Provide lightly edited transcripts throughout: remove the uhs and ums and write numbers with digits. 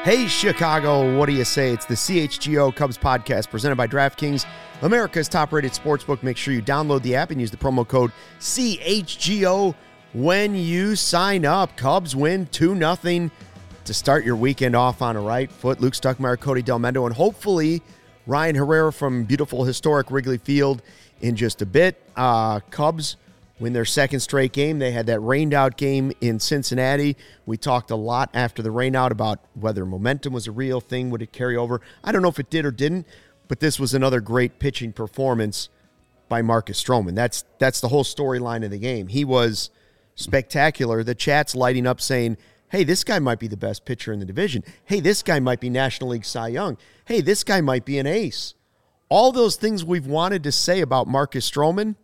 Hey, Chicago, what do you say? It's the CHGO Cubs podcast presented by DraftKings, America's top-rated sportsbook. Make sure you download the app and use the promo code CHGO when you sign up. Cubs win 2-0 to start your weekend off on a right foot. Luke Stuckmeyer, Cody Delmendo, and hopefully Ryan Herrera from beautiful, historic Wrigley Field in just a bit. Cubs win their second straight game. They had that rained-out game in Cincinnati. We talked a lot after the rainout about whether momentum was a real thing. Would it carry over? I don't know if it did or didn't, but this was another great pitching performance by Marcus Stroman. That's the whole storyline of the game. He was spectacular. The chat's lighting up saying, hey, this guy might be the best pitcher in the division. Hey, this guy might be National League Cy Young. Hey, this guy might be an ace. All those things we've wanted to say about Marcus Stroman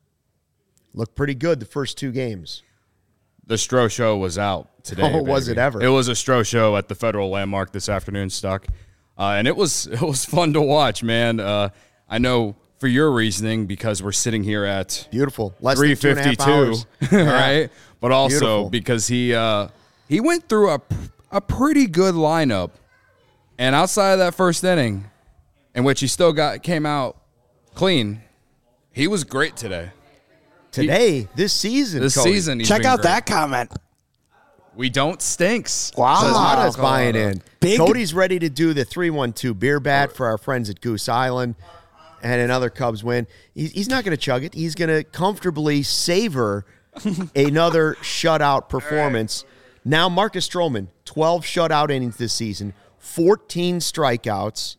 looked pretty good the first two games. The Stro Show was out today. Oh, was it ever? It was a Stro Show at the Federal Landmark this afternoon, Stuck. And it was fun to watch, man. I know for your reasoning, because we're sitting here at beautiful less than 3:52, right? But also beautiful. Because he went through a pretty good lineup, and outside of that first inning, in which he still came out clean, he was great today. This season, This Cody. season, he's Check been out great. that comment. We don't stinks. Wow. Colada's buying in. Big- Cody's ready to do the 3-1-2 beer bat for our friends at Goose Island, and another Cubs win. He's not going to chug it. He's going to comfortably savor another shutout performance. Now, Marcus Stroman, 12 shutout innings this season, 14 strikeouts,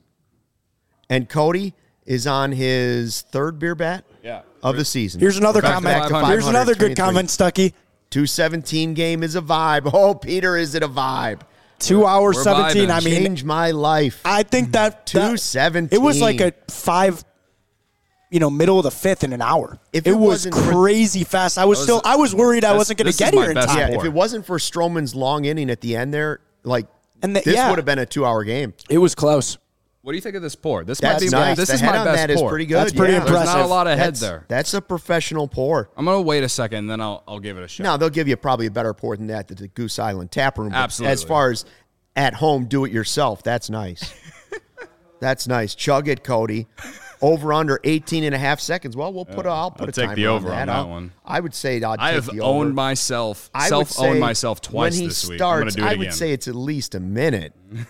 and Cody is on his third beer bat of the season. Here's another Back to comment. 500. Here's another good comment, Stucky. 217 game is a vibe. Oh, Peter, is it a vibe? 2 hours, We're 17. vibing. I mean, Change my life. I think that 217. It was like a 5, middle of the fifth in an hour. If it it was wasn't for- crazy fast. I was worried I wasn't going this to get is my here in best time. Yeah, Four. if it wasn't for Stroman's long inning at the end there, this yeah. would have been a 2-hour game. It was close. What do you think of this pour? This That's might be nice. This the is head my on best that is pour. pretty good. That's pretty yeah. There's not a impressive. lot of head That's, there. That's a professional pour. I'm gonna wait a second, and then I'll give it a shot. Now, they'll give you probably a better pour than that at the Goose Island Tap Room. But Absolutely. as far as at home, do it yourself, that's nice. That's nice. Chug it, Cody. Over under 18.5 seconds. Well, I'll put I'll a take timer the over on on that one. I would say I'd I take have the over. owned myself, I would self-owned say myself twice when he this week. starts, I'm gonna do it I again. would say it's at least a minute.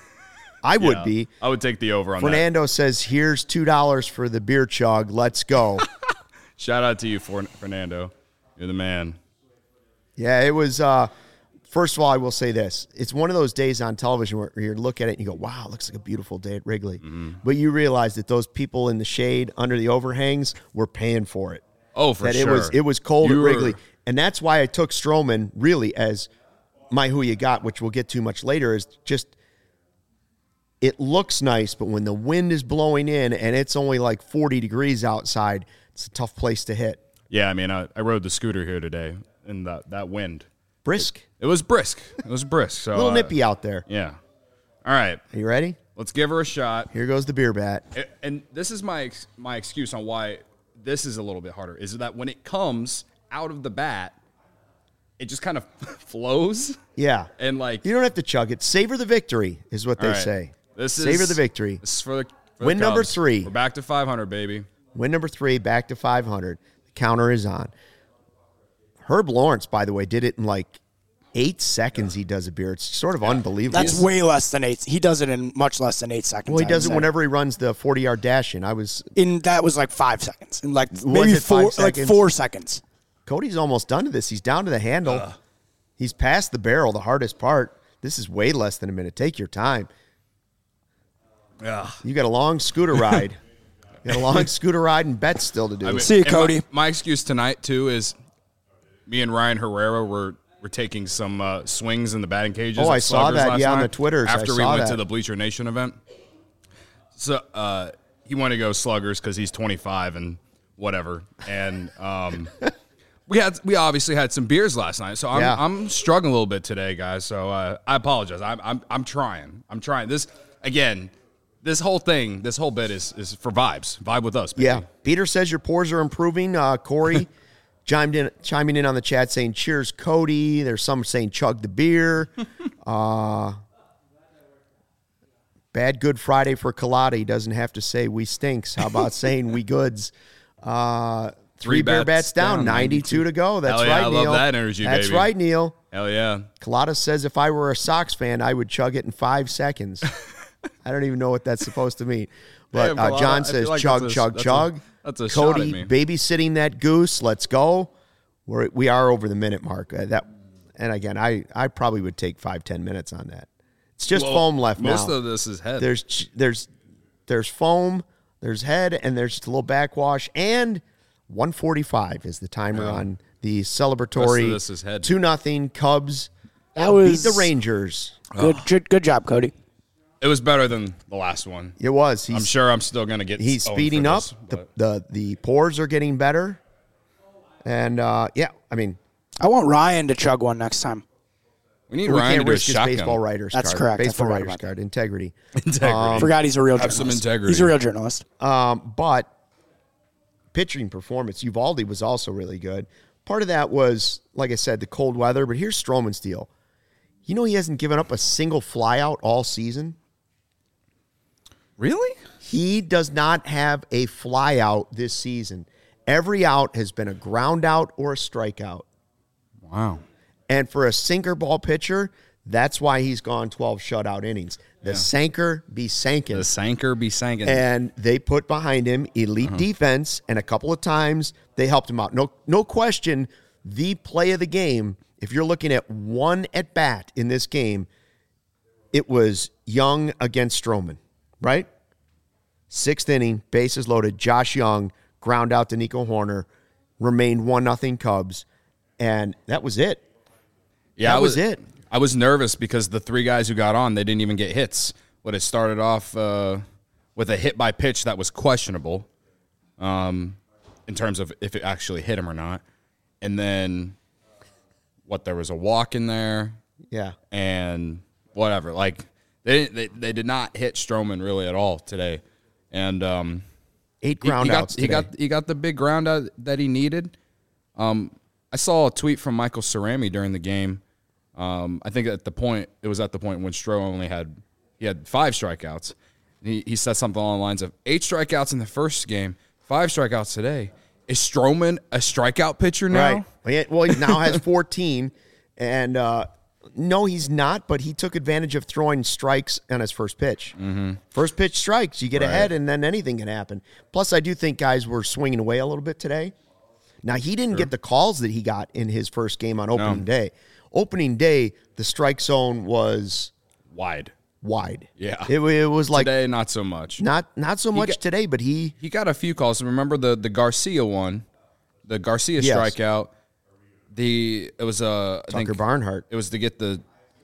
I would be. I would take the over on Fernando says, here's $2 for the beer chug. Let's go. that. Shout out to you, Fernando. You're the man. Yeah, it was, first of all, I will say this. It's one of those days on television where you look at it and you go, wow, it looks like a beautiful day at Wrigley. Mm-hmm. But you realize that those people in the shade under the overhangs were paying for it. Oh, for that sure. It was cold You at were- Wrigley. And that's why I took Stroman really as my who you got, which we'll get to much later, is just it looks nice, but when the wind is blowing in and it's only like 40 degrees outside, it's a tough place to hit. Yeah, I mean, I rode the scooter here today in that wind. Brisk. It was brisk. It was brisk. So A little nippy out there. Yeah. All right. Are you ready? Let's give her a shot. Here goes the beer bat. And this is my excuse on why this is a little bit harder, is that when it comes out of the bat, it just kind of flows. Yeah. And You don't have to chug it. Savor the victory is what they all right, say. Savor Savor the victory. This is for the Win number Cubs. 3. We're back to 500, baby. Win number 3, back to 500. The counter is on. Herb Lawrence, by the way, did it in like 8 seconds. He does a beer. It's sort of unbelievable. That's way less than 8. He does it in much less than 8 seconds. Well, he I does it would say. whenever he runs the 40-yard dash in. That was like 5 seconds. In like maybe it 5 seconds? 4 seconds. Cody's almost done to this. He's down to the handle. He's past the barrel, the hardest part. This is way less than a minute. Take your time. Yeah. You got a long scooter ride. You got a long scooter ride and bets still to do. I mean, See you, and Cody. My excuse tonight, too, is me and Ryan Herrera were taking some swings in the batting cages. Oh, at I saw Sluggers that, last yeah, on night the Twitters. I After we saw went that. to the Bleacher Nation event. So he wanted to go Sluggers because he's 25 and whatever. And we obviously had some beers last night, so I'm struggling a little bit today, guys. So I apologize. I'm trying. This again. This whole thing, this whole bit is for vibes. Vibe with us, baby. Yeah. Peter says your pours are improving. Corey chiming in on the chat saying, cheers, Cody. There's some saying chug the beer. Bad Good Friday for Collada. He doesn't have to say we stinks. How about saying we goods? 3 Bear bats down, 92 to go. That's Hell yeah, right, Neil. I love that energy, That's baby. right, Neil. Hell yeah. Collada says if I were a Sox fan, I would chug it in 5 seconds. I don't even know what that's supposed to mean. But Damn, John says like chug, that's chug, chug. That's a shot at Cody me. babysitting that goose. Let's go. We are over the minute mark. And again, I probably would take 5-10 minutes on that. It's just foam left now. Most of this is head. There's foam, there's head, and there's just a little backwash. And 1:45 is the timer on the celebratory. This is head. 2-0 Cubs That was beat the Rangers. good job, Cody. It was better than the last one. It was. I'm sure I'm still going to get He's owned speeding for up. this, The pores are getting better. And, I mean, I want Ryan to chug one next time. we need we Ryan to can't do a risk his shotgun. baseball writer's That's card. correct. I Baseball forgot writer's about that. card. Integrity. Integrity. Forgot he's a real Have journalist. some integrity. He's a real journalist. But pitching performance, Uvalde was also really good. Part of that was, like I said, the cold weather. But here's Stroman's deal. You know he hasn't given up a single flyout all season? Really? He does not have a flyout this season. Every out has been a ground out or a strikeout. Wow. And for a sinker ball pitcher, that's why he's gone 12 shutout innings. The sanker be sankin'. The sanker be sankin'. And they put behind him elite defense, and a couple of times they helped him out. No question, the play of the game, if you're looking at one at bat in this game, it was Young against Stroman, right? 6th inning, bases loaded, Josh Young, ground out to Nico Horner, remained 1-0 Cubs, and that was it. Yeah, that was it. I was nervous because the 3 guys who got on, they didn't even get hits. But it started off with a hit by pitch that was questionable in terms of if it actually hit him or not. And then there was a walk in there. Yeah. And whatever. Like they did not hit Stroman really at all today. And 8 ground outs today. He got the big ground out that he needed. I saw a tweet from Michael Cerami during the game. I think it was at the point when Stroh only had 5 strikeouts. He said something along the lines of 8 strikeouts in the first game, 5 strikeouts today. Is Stroman a strikeout pitcher now? Right. Well, he now has 14, and no, he's not. But he took advantage of throwing strikes on his first pitch. Mm-hmm. First pitch strikes, you get ahead, and then anything can happen. Plus, I do think guys were swinging away a little bit today. Now, he didn't get the calls that he got in his first game on opening day. Opening day, the strike zone was wide. Yeah, it was like today, not so much. Not so much today, but he got a few calls. Remember the Garcia one, the Garcia strikeout. It was Tucker Barnhart. It was to get a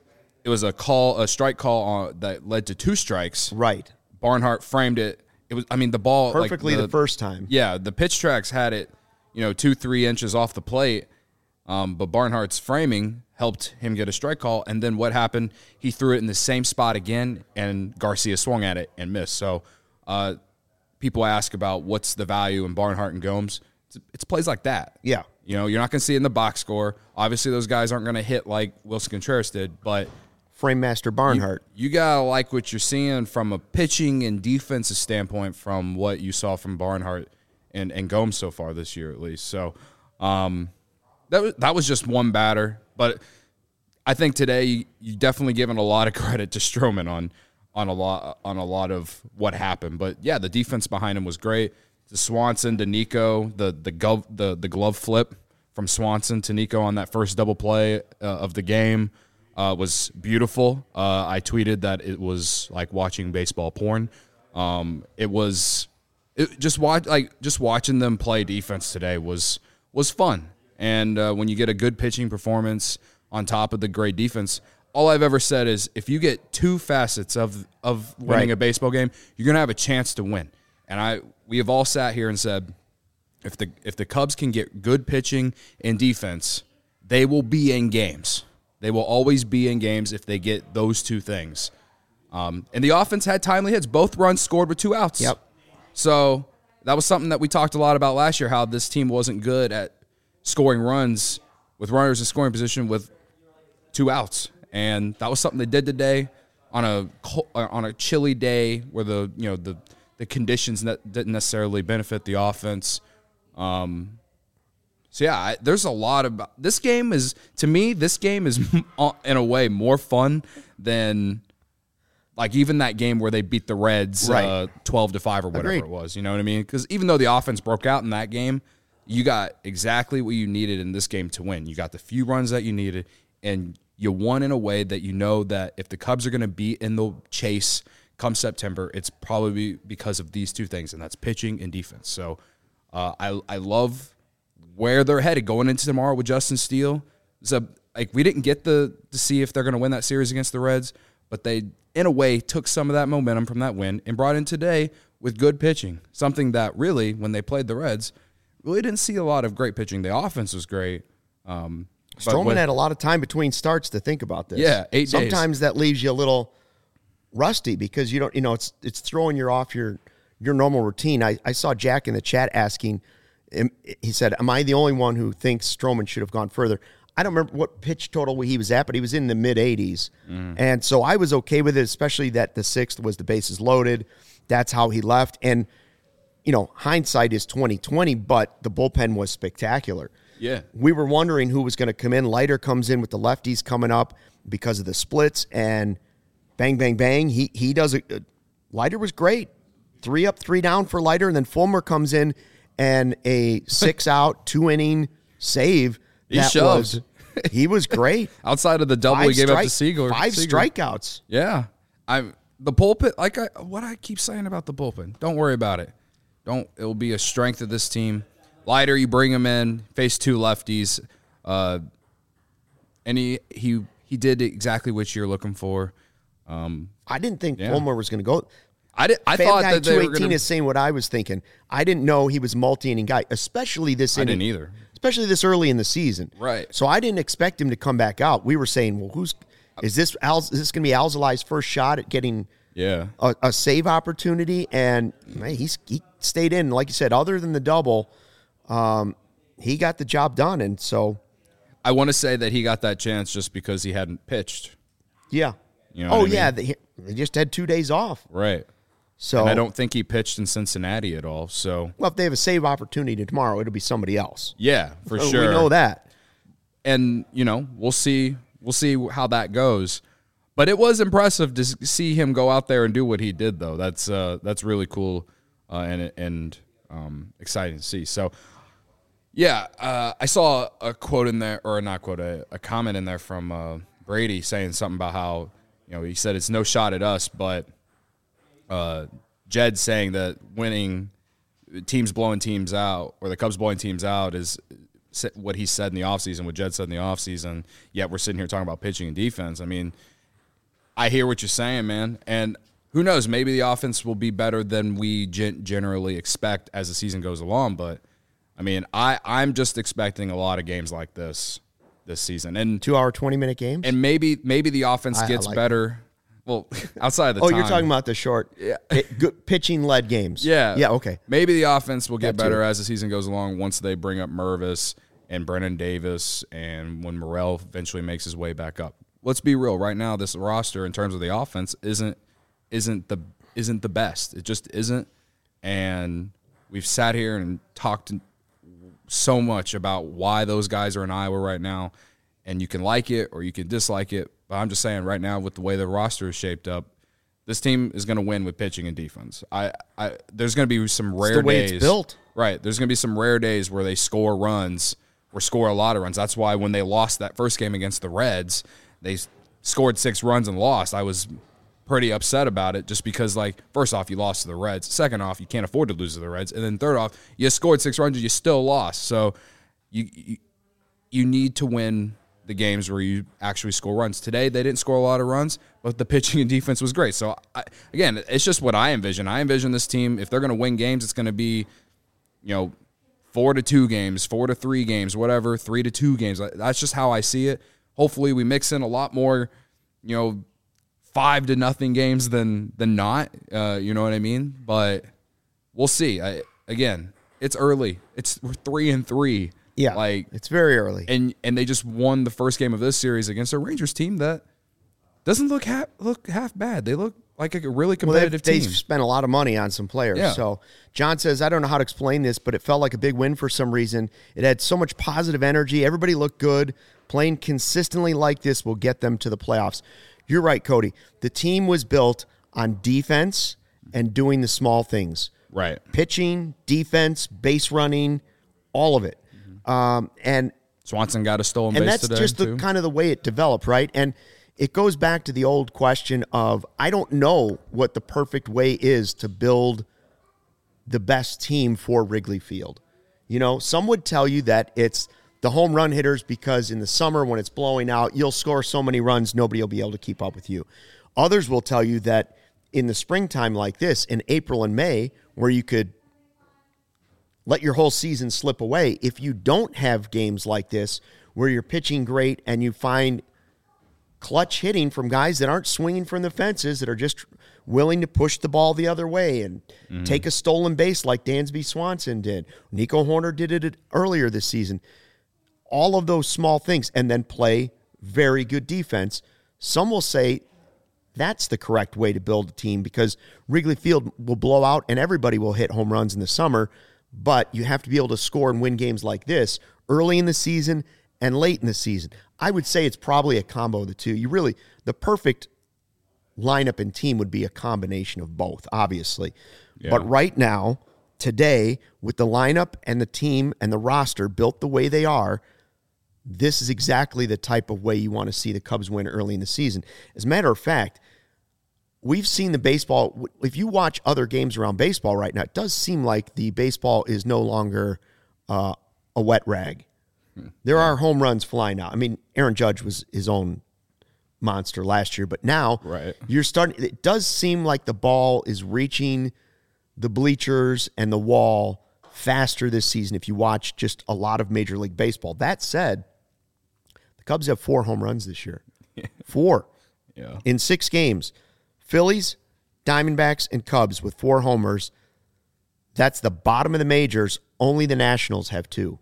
strike call that led to 2 strikes. Right. Barnhart framed it. It was the ball perfectly the first time. Yeah, the pitch tracks had it, 2-3 inches off the plate. But Barnhart's framing helped him get a strike call. And then what happened? He threw it in the same spot again, and Garcia swung at it and missed. So people ask about what's the value in Barnhart and Gomes. It's plays like that. Yeah. You're not going to see it in the box score. Obviously, those guys aren't going to hit like Wilson Contreras did, but Frame master Barnhart. You got to like what you're seeing from a pitching and defensive standpoint from what you saw from Barnhart and Gomes so far this year, at least. So, that was just one batter, but I think today you definitely given a lot of credit to Stroman on a lot of what happened. But yeah, the defense behind him was great. To Swanson, to Nico, the glove flip from Swanson to Nico on that first double play of the game was beautiful. I tweeted that it was like watching baseball porn. Just watching them play defense today was fun. And when you get a good pitching performance on top of the great defense, all I've ever said is if you get 2 facets of winning a baseball game, you're going to have a chance to win. And we have all sat here and said, if the Cubs can get good pitching and defense, they will be in games. They will always be in games if they get those 2 things. And the offense had timely hits. Both runs scored with 2 outs. Yep. So that was something that we talked a lot about last year, how this team wasn't good at scoring runs with runners in scoring position with 2 outs. And that was something they did today. on a chilly day where the conditions didn't necessarily benefit the offense. So yeah, there's a lot about this game. To me, this game is in a way more fun than like even that game where they beat the Reds 12-5 or whatever it was. You know what I mean? Because even though the offense broke out in that game, you got exactly what you needed in this game to win. You got the few runs that you needed, and you won in a way that you know that if the Cubs are going to be in the chase come September, it's probably because of these two things, and that's pitching and defense. So I love where they're headed going into tomorrow with Justin Steele. So we didn't get to see if they're going to win that series against the Reds, but they, in a way, took some of that momentum from that win and brought in today with good pitching, something that really, when they played the Reds, really didn't see a lot of great pitching. The offense was great. Stroman had a lot of time between starts to think about this. Yeah, 8 days. Sometimes that leaves you a little rusty because you don't, it's throwing you off your normal routine. I saw Jack in the chat asking, he said, am I the only one who thinks Stroman should have gone further? I don't remember what pitch total he was at, but he was in the mid-80s. And so I was okay with it, especially that the sixth was the bases loaded. That's how he left. And, hindsight is 20/20, but the bullpen was spectacular. Yeah. We were wondering who was going to come in. Leiter comes in with the lefties coming up because of the splits, and bang, bang, bang. He does it. Leiter was great. 3 up, 3 down for Leiter, and then Fulmer comes in and a 6-out, 2-inning save. He was great. Outside of the double he gave up to Seager. 5 strikeouts. Yeah. The bullpen, what I keep saying about the bullpen, don't worry about it. It'll be a strength of this team. Leiter, you bring him in, face 2 lefties, and he did exactly what you're looking for. I didn't think Fulmer was going to go. I thought that they were 218 is saying what I was thinking. I didn't know he was multi-inning guy, especially this inning. I didn't either. Especially this early in the season. Right. So I didn't expect him to come back out. We were saying, well, is this going to be Alzolai's first shot at getting a save opportunity? And man, he stayed in. Like you said, other than the double, he got the job done. And so I want to say that he got that chance just because he hadn't pitched. Yeah. You know what I mean? They just had 2 days off. Right. So and I don't think he pitched in Cincinnati at all. So if they have a save opportunity tomorrow, it'll be somebody else. Yeah, for sure. We know that. And we'll see how that goes. But it was impressive to see him go out there and do what he did, though. That's really cool and exciting to see. So yeah, I saw a quote in there, or not quote, a comment in there from Brady saying something about how he said it's no shot at us, but Jed saying that winning teams blowing teams out, or the Cubs blowing teams out, is what he said in the offseason, what Jed said in the offseason, yet we're sitting here talking about pitching and defense. I mean, I hear what you're saying, man, and who knows, maybe the offense will be better than we generally expect as the season goes along, but, I mean, I'm just expecting a lot of games like this season. And 2-hour, 20-minute games? And maybe the offense gets better. Well, outside of the time. You're talking about the short pitching-led games. Yeah. Yeah, okay. Maybe the offense will get better as the season goes along once they bring up Mervis and Brennan Davis and when Morel eventually makes his way back up. Let's be real. Right now, this roster, in terms of the offense, isn't the best. It just isn't. And we've sat here and talked so much about why those guys are in Iowa right now, and you can like it or you can dislike it. But I'm just saying right now, with the way the roster is shaped up, this team is going to win with pitching and defense. There's going to be some rare days. The way it's built. Right. There's going to be some rare days where they score runs or score a lot of runs. That's why when they lost that first game against the Reds, they scored 6 runs and lost. I was pretty upset about it just because, first off, you lost to the Reds. Second off, you can't afford to lose to the Reds. And then third off, you scored 6 runs and you still lost. So you need to win the games where you actually score runs. Today, they didn't score a lot of runs, but the pitching and defense was great. So, again, it's just what I envision. I envision this team, if they're going to win games, it's going to be, 4-2 games, 4-3 games, whatever, 3-2 games. That's just how I see it. Hopefully, we mix in a lot more, 5-0 games than not. You know what I mean? But we'll see. Again, it's early. We're 3-3. Yeah, it's very early. And they just won the first game of this series against a Rangers team that doesn't look half bad. They look like a really competitive team. They've spent a lot of money on some players. Yeah. So John says, I don't know how to explain this, but it felt like a big win for some reason. It had so much positive energy. Everybody looked good. Playing consistently like this will get them to the playoffs. You're right, Cody. The team was built on defense and doing the small things. Right. Pitching, defense, base running, all of it. And Swanson got a stolen base and that's today, just too. kind of the way it developed, right? And it goes back to the old question of, I don't know what the perfect way is to build the best team for Wrigley Field. You know, some would tell you that it's the home run hitters because in the summer when it's blowing out, you'll score so many runs, nobody will be able to keep up with you. Others will tell you that in the springtime like this, in April and May, where you could let your whole season slip away, if you don't have games like this where you're pitching great and you find clutch hitting from guys that aren't swinging from the fences, that are just willing to push the ball the other way and take a stolen base like Dansby Swanson did. Nico Horner did it earlier this season. All of those small things, and then play very good defense. Some will say that's the correct way to build a team because Wrigley Field will blow out and everybody will hit home runs in the summer, but you have to be able to score and win games like this early in the season and late in the season. I would say it's probably a combo of the two. The perfect lineup and team would be a combination of both, obviously. Yeah. But right now, today, with the lineup and the team and the roster built the way they are, this is exactly the type of way you want to see the Cubs win early in the season. As a matter of fact, we've seen the baseball. If you watch other games around baseball right now, it does seem like the baseball is no longer a wet rag. There are home runs flying out. I mean, Aaron Judge was his own monster last year, but now you're starting. It does seem like the ball is reaching the bleachers and the wall faster this season if you watch just a lot of Major League Baseball. That said, the Cubs have 4 home runs this year. 4 in 6 games. Phillies, Diamondbacks, and Cubs with 4 homers. That's the bottom of the majors. Only the Nationals have 2.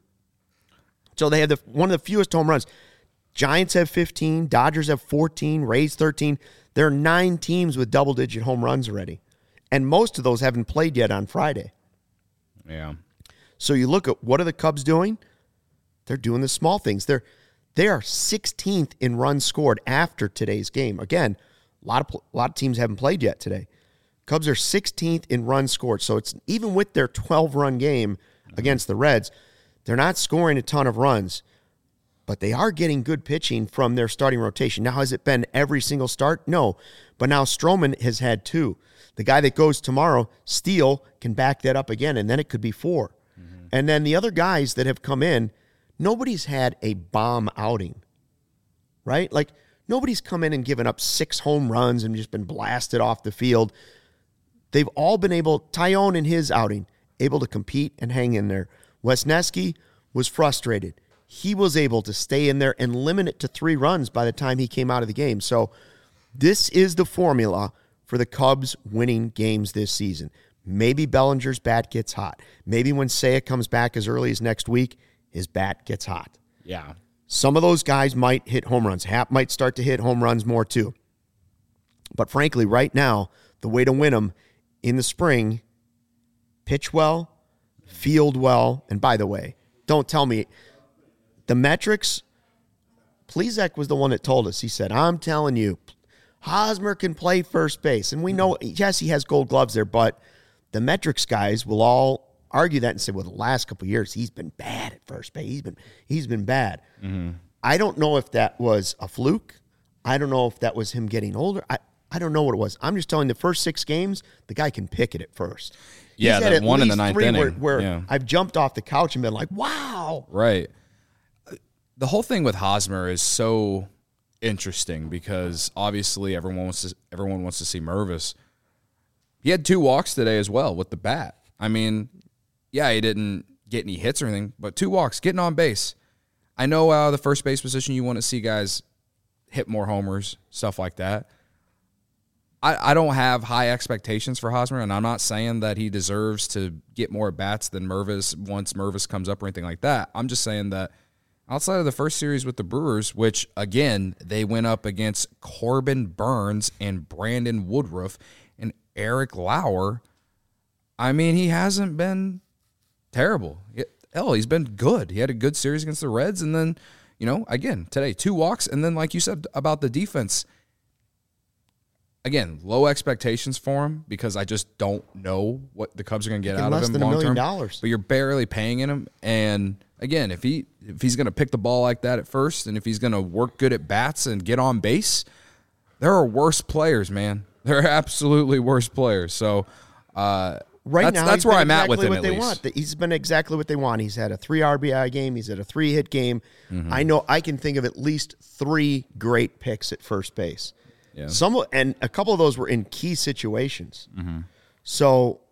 So they have one of the fewest home runs. Giants have 15. Dodgers have 14. Rays 13. There are 9 teams with double-digit home runs already. And most of those haven't played yet on Friday. Yeah. So you look at what are the Cubs doing? They're doing the small things. They are 16th in runs scored after today's game. Again, a lot of teams haven't played yet today. Cubs are 16th in runs scored. So it's even with their 12-run game against the Reds, they're not scoring a ton of runs, but they are getting good pitching from their starting rotation. Now, has it been every single start? No. But now Stroman has had 2. The guy that goes tomorrow, Steele, can back that up again, and then it could be 4. And then the other guys that have come in, nobody's had a bomb outing, right? Like, nobody's come in and given up 6 home runs and just been blasted off the field. They've all been able, Tyone in his outing, able to compete and hang in there. Wesneski was frustrated. He was able to stay in there and limit it to 3 runs by the time he came out of the game. So this is the formula for the Cubs winning games this season. Maybe Bellinger's bat gets hot. Maybe when Seiya comes back as early as next week, his bat gets hot. Yeah. Some of those guys might hit home runs. Happ might start to hit home runs more too. But frankly, right now, the way to win them in the spring, pitch well, field well, and by the way, don't tell me the metrics. Plezak was the one that told us. He said, I'm telling you, Hosmer can play first base. And we know, yes, he has gold gloves there, but the metrics guys will all argue that and say, well, the last couple of years, he's been bad at first base. He's been bad. Mm-hmm. I don't know if that was a fluke. I don't know if that was him getting older. I don't know what it was. I'm just telling you, the first 6 games, the guy can pick it at first. Yeah, that one in the 9th inning. Where I've jumped off the couch and been like, wow. Right. The whole thing with Hosmer is so interesting because obviously everyone wants to see Mervis. He had 2 walks today as well with the bat. I mean, yeah, he didn't get any hits or anything, but 2 walks, getting on base. I know the first base position, you want to see guys hit more homers, stuff like that. I don't have high expectations for Hosmer, and I'm not saying that he deserves to get more bats than Mervis once Mervis comes up or anything like that. I'm just saying that outside of the first series with the Brewers, which, again, they went up against Corbin Burns and Brandon Woodruff and Eric Lauer, I mean, he hasn't been terrible. He's been good. He had a good series against the Reds, and then, again, today, 2 walks, and then, like you said about the defense, again, low expectations for him because I just don't know what the Cubs are going to get out of him long term. But you're barely paying him, and again, if he's going to pick the ball like that at first, and if he's going to work good at bats and get on base, there are worse players, man. There are absolutely worse players. So that's where I'm at with him. At least he's been exactly what they want. He's had a 3 RBI game. He's had a 3-hit game. Mm-hmm. I know I can think of at least 3 great picks at first base. Yeah. And a couple of those were in key situations. Mm-hmm. So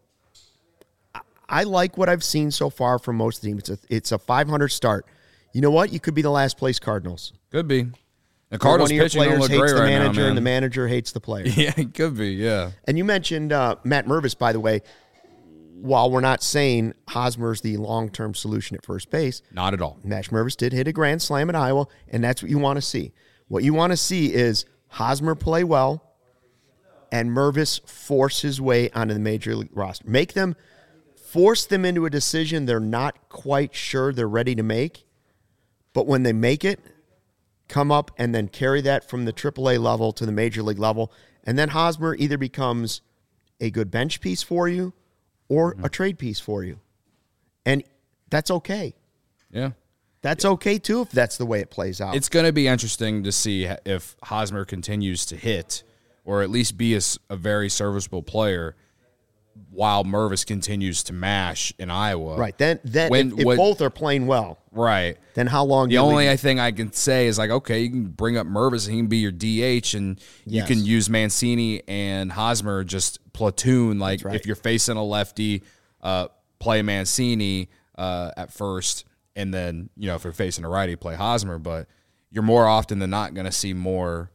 I like what I've seen so far from most of the teams. It's a 500 start. You know what? You could be the last place Cardinals. Could be. The Cardinals pitching don't look great right now, man. And the manager hates the player. Yeah, it could be, yeah. And you mentioned Matt Mervis, by the way. While we're not saying Hosmer's the long-term solution at first base. Not at all. Matt Mervis did hit a grand slam at Iowa, and that's what you want to see. What you want to see is Hosmer play well and Mervis force his way onto the major league roster. Force them into a decision they're not quite sure they're ready to make, but when they make it, come up and then carry that from the AAA level to the major league level, and then Hosmer either becomes a good bench piece for you or a trade piece for you. And that's okay. Yeah. That's okay, too, if that's the way it plays out. It's going to be interesting to see if Hosmer continues to hit or at least be a very serviceable player while Mervis continues to mash in Iowa. Right. Then if both are playing well, right, then how long? The only thing I can say is like, okay, you can bring up Mervis and he can be your DH, and you can use Mancini and Hosmer just platoon. Like if you're facing a lefty, play Mancini at first, and then if you're facing a righty, play Hosmer. But you're more often than not going to see more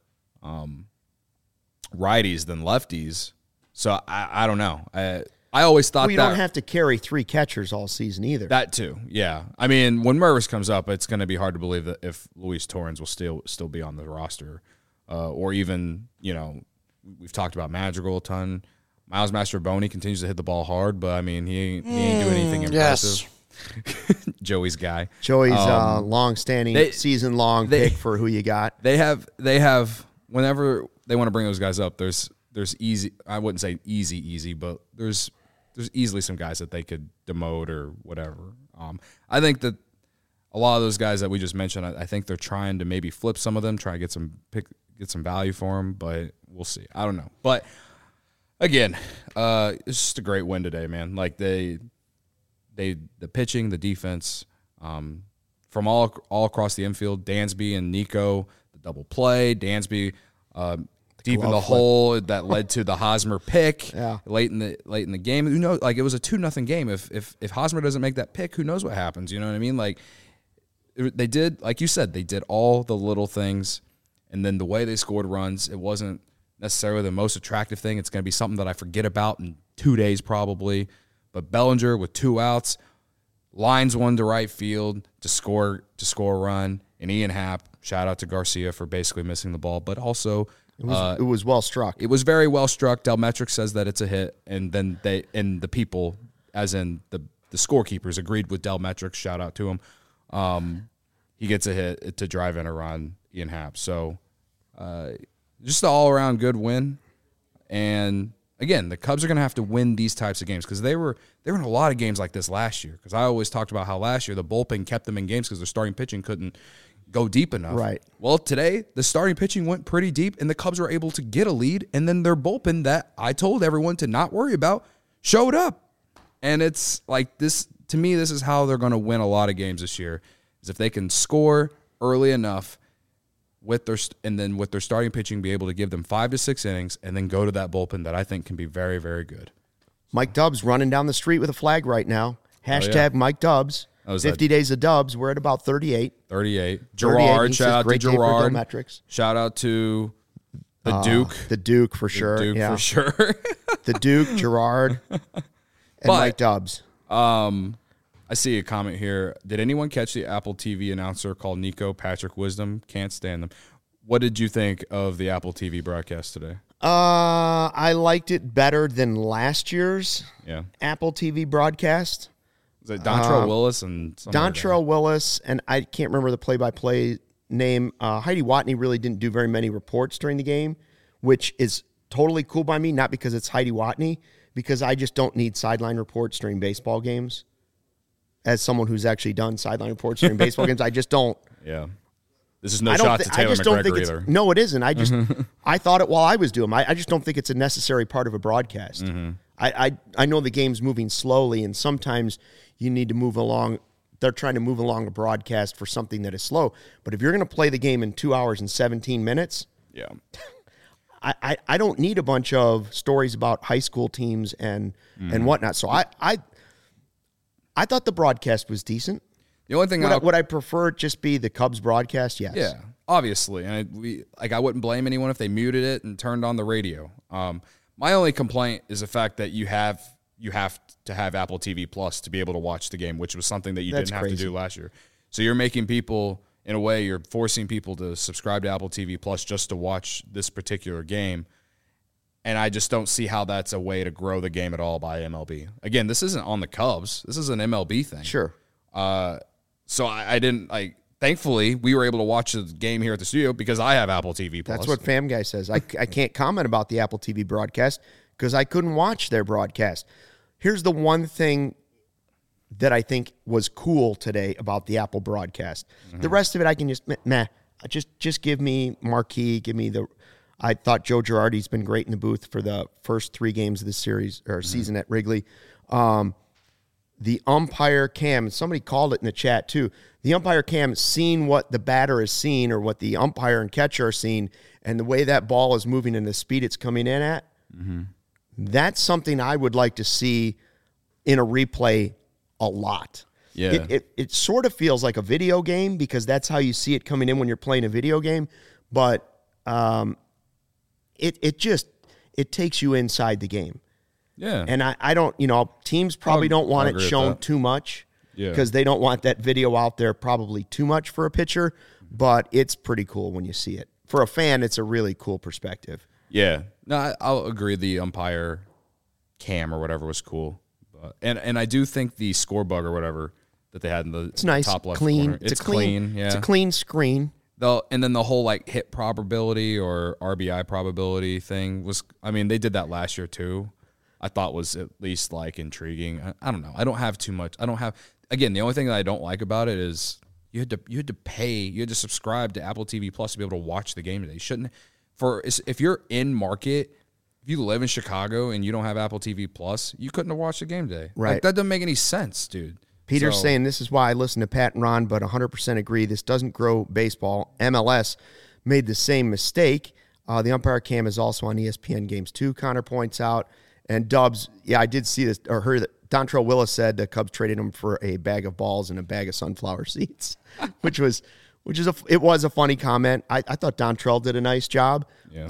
righties than lefties. So I don't know. I always thought you don't have to carry 3 catchers all season either. That too, yeah. I mean, when Mervis comes up, it's going to be hard to believe that if Luis Torrens will still be on the roster, or even we've talked about Madrigal a ton. Miles Mastrobuoni continues to hit the ball hard, but I mean he ain't doing anything impressive. Yes. Joey's guy. Joey's long-standing, season-long pick for who you got. They have whenever they want to bring those guys up, there's easy. I wouldn't say easy, but there's easily some guys that they could demote or whatever. I think that a lot of those guys that we just mentioned, I think they're trying to maybe flip some of them, try to get some value for them, but we'll see. I don't know. But again, it's just a great win today, man. Like the pitching, the defense, from all across the infield, Dansby and Nico, the double play, Dansby deep in the hole that led to the Hosmer pick late in the game. Who knows? Like it was a 2-0 game. If Hosmer doesn't make that pick, who knows what happens? You know what I mean? Like they did, like you said, they did all the little things, and then the way they scored runs, it wasn't necessarily the most attractive thing. It's going to be something that I forget about in 2 days probably. But Bellinger with 2 outs, lines one to right field to score a run, and Ian Happ, shout out to Garcia for basically missing the ball, but also. It was well struck. It was very well struck. Delmetric says that it's a hit, and then the people, as in the scorekeepers, agreed with Delmetric. Shout out to him. He gets a hit to drive in a run, Ian Happ. So just an all-around good win. And, again, the Cubs are going to have to win these types of games because they were in a lot of games like this last year, because I always talked about how last year the bullpen kept them in games because their starting pitching couldn't go deep enough. Right. Well, today, the starting pitching went pretty deep, and the Cubs were able to get a lead, and then their bullpen that I told everyone to not worry about showed up. And it's like this, to me, this is how they're going to win a lot of games this year, is if they can score early enough with their starting pitching, be able to give them 5 to 6 innings, and then go to that bullpen that I think can be very, very good. Mike Dubs running down the street with a flag right now. Hashtag Mike Dubs. 50 days of Dubs. We're at about 38. 38. Gerard. Shout out to Gerard. Shout out to the Duke. The Duke for sure. The Duke for sure. The Duke, Gerard, and Mike Dubs. I I see a comment here. Did anyone catch the Apple TV announcer called Nico Patrick Wisdom? Can't stand them. What did you think of the Apple TV broadcast today? I liked it better than last year's Apple TV broadcast. Was it Dontrell Willis and Dontrell Willis, and I can't remember the play-by-play name. Heidi Watney really didn't do very many reports during the game, which is totally cool by me, not because it's Heidi Watney, because I just don't need sideline reports during baseball games. As someone who's actually done sideline reports during baseball games, I just don't. Yeah. This is no shot to Taylor McGregor either. No, it isn't. I thought it while I was doing them. I just don't think it's a necessary part of a broadcast. Mm-hmm. I know the game's moving slowly, and sometimes you need to move along. They're trying to move along a broadcast for something that is slow. But if you're going to play the game in 2 hours and 17 minutes, I don't need a bunch of stories about high school teams and whatnot. So I thought the broadcast was decent. The only thing would I prefer it just be the Cubs broadcast? Yes. Yeah, obviously. And I wouldn't blame anyone if they muted it and turned on the radio. My only complaint is the fact that you have to have Apple TV Plus to be able to watch the game, which was something that you didn't have to do last year. So you're making people, in a way, you're forcing people to subscribe to Apple TV Plus just to watch this particular game. And I just don't see how that's a way to grow the game at all by MLB. Again, this isn't on the Cubs. This is an MLB thing. Sure. So I didn't, thankfully, we were able to watch the game here at the studio because I have Apple TV Plus. That's what Fam Guy says. I can't comment about the Apple TV broadcast because I couldn't watch their broadcast. Here's the one thing that I think was cool today about the Apple broadcast. Mm-hmm. The rest of it I can just give me Marquee, give me the... I thought Joe Girardi's been great in the booth for the first 3 games of this series or season at Wrigley. The umpire cam, somebody called it in the chat too. The umpire cam seeing what the batter is seeing or what the umpire and catcher are seeing, and the way that ball is moving and the speed it's coming in at. Mm-hmm. That's something I would like to see in a replay a lot. Yeah, it sort of feels like a video game because that's how you see it coming in when you're playing a video game, but it takes you inside the game. Yeah. And I don't, teams probably don't want it shown too much because they don't want that video out there probably too much for a pitcher, but it's pretty cool when you see it. For a fan, it's a really cool perspective. Yeah. No, I'll agree the umpire cam or whatever was cool. And I do think the score bug or whatever that they had in the top left corner. It's clean. Yeah. It's a clean screen. And then the whole hit probability or RBI probability thing was, they did that last year too. I thought was at least intriguing. I don't know. I don't have too much. Again, the only thing that I don't like about it is you had to subscribe to Apple TV Plus to be able to watch the game today. If you're in market, if you live in Chicago and you don't have Apple TV Plus, you couldn't have watched the game today. Right. That doesn't make any sense, dude. Peter's saying this is why I listen to Pat and Ron, but 100% agree. This doesn't grow baseball. MLS made the same mistake. The umpire cam is also on ESPN Games 2, Connor points out. And Dubs, I did see this, or heard that Dontrell Willis said the Cubs traded him for a bag of balls and a bag of sunflower seeds, which was a funny comment. I thought Dontrell did a nice job.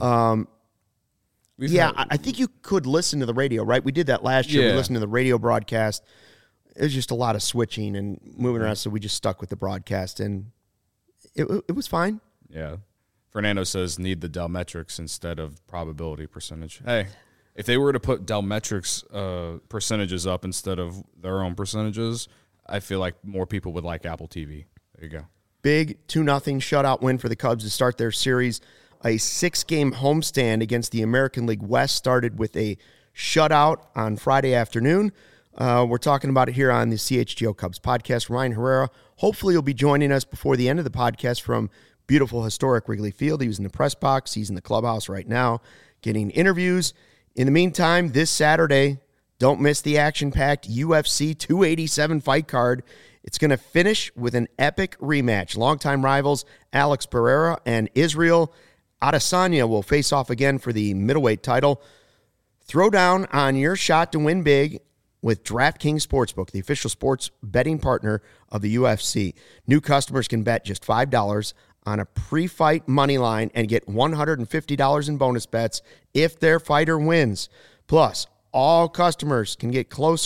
Yeah. I think you could listen to the radio, right? We did that last year. Yeah. We listened to the radio broadcast. It was just a lot of switching and moving around, so we just stuck with the broadcast, and it was fine. Yeah. Fernando says need the Delmetrics instead of probability percentage. Hey. If they were to put Delmetrics percentages up instead of their own percentages, I feel like more people would like Apple TV. There you go. Big 2-0 shutout win for the Cubs to start their series. A 6-game homestand against the American League West started with a shutout on Friday afternoon. We're talking about it here on the CHGO Cubs podcast. Ryan Herrera, hopefully, will be joining us before the end of the podcast from beautiful, historic Wrigley Field. He was in the press box. He's in the clubhouse right now getting interviews. In the meantime, this Saturday, don't miss the action-packed UFC 287 fight card. It's going to finish with an epic rematch. Longtime rivals Alex Pereira and Israel Adesanya will face off again for the middleweight title. Throw down on your shot to win big with DraftKings Sportsbook, the official sports betting partner of the UFC. New customers can bet just $5 on a pre-fight money line and get $150 in bonus bets if their fighter wins. Plus, all customers can get closer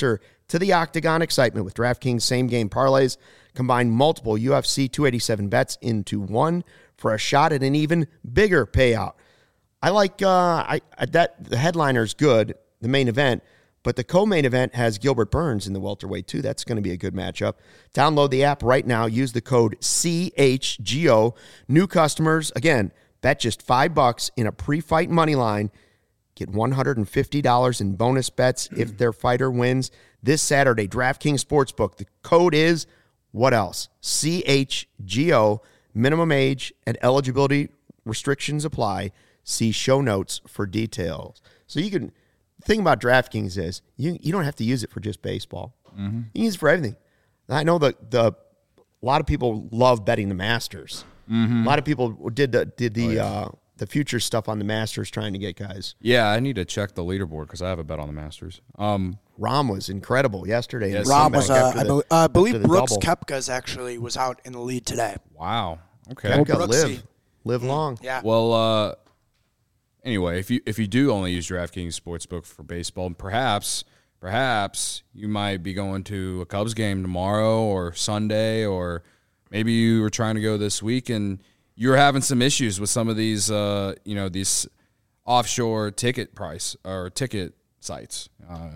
to the Octagon excitement with DraftKings same-game parlays. Combine multiple UFC 287 bets into one for a shot at an even bigger payout. I like that the headliner is good, the main event, but the co-main event has Gilbert Burns in the welterweight too. That's going to be a good matchup. Download the app right now. Use the code CHGO. New customers, again, bet just $5 in a pre-fight money line. Get $150 in bonus bets if their fighter wins this Saturday. DraftKings Sportsbook. The code is what else? CHGO. Minimum age and eligibility restrictions apply. See show notes for details. So you can... The thing about DraftKings is you don't have to use it for just baseball. Mm-hmm. You can use it for everything. I know a lot of people love betting the Masters. Mm-hmm. A lot of people did the future stuff on the Masters trying to get guys. Yeah, I need to check the leaderboard because I have a bet on the Masters. Rahm was incredible yesterday. Yes, Rahm was, I believe Brooks Koepka's actually was out in the lead today. Wow. Okay. Koepka live long. Yeah. Well, anyway, if you do only use DraftKings Sportsbook for baseball, perhaps you might be going to a Cubs game tomorrow or Sunday, or maybe you were trying to go this week and you're having some issues with some of these, these offshore ticket price or ticket sites.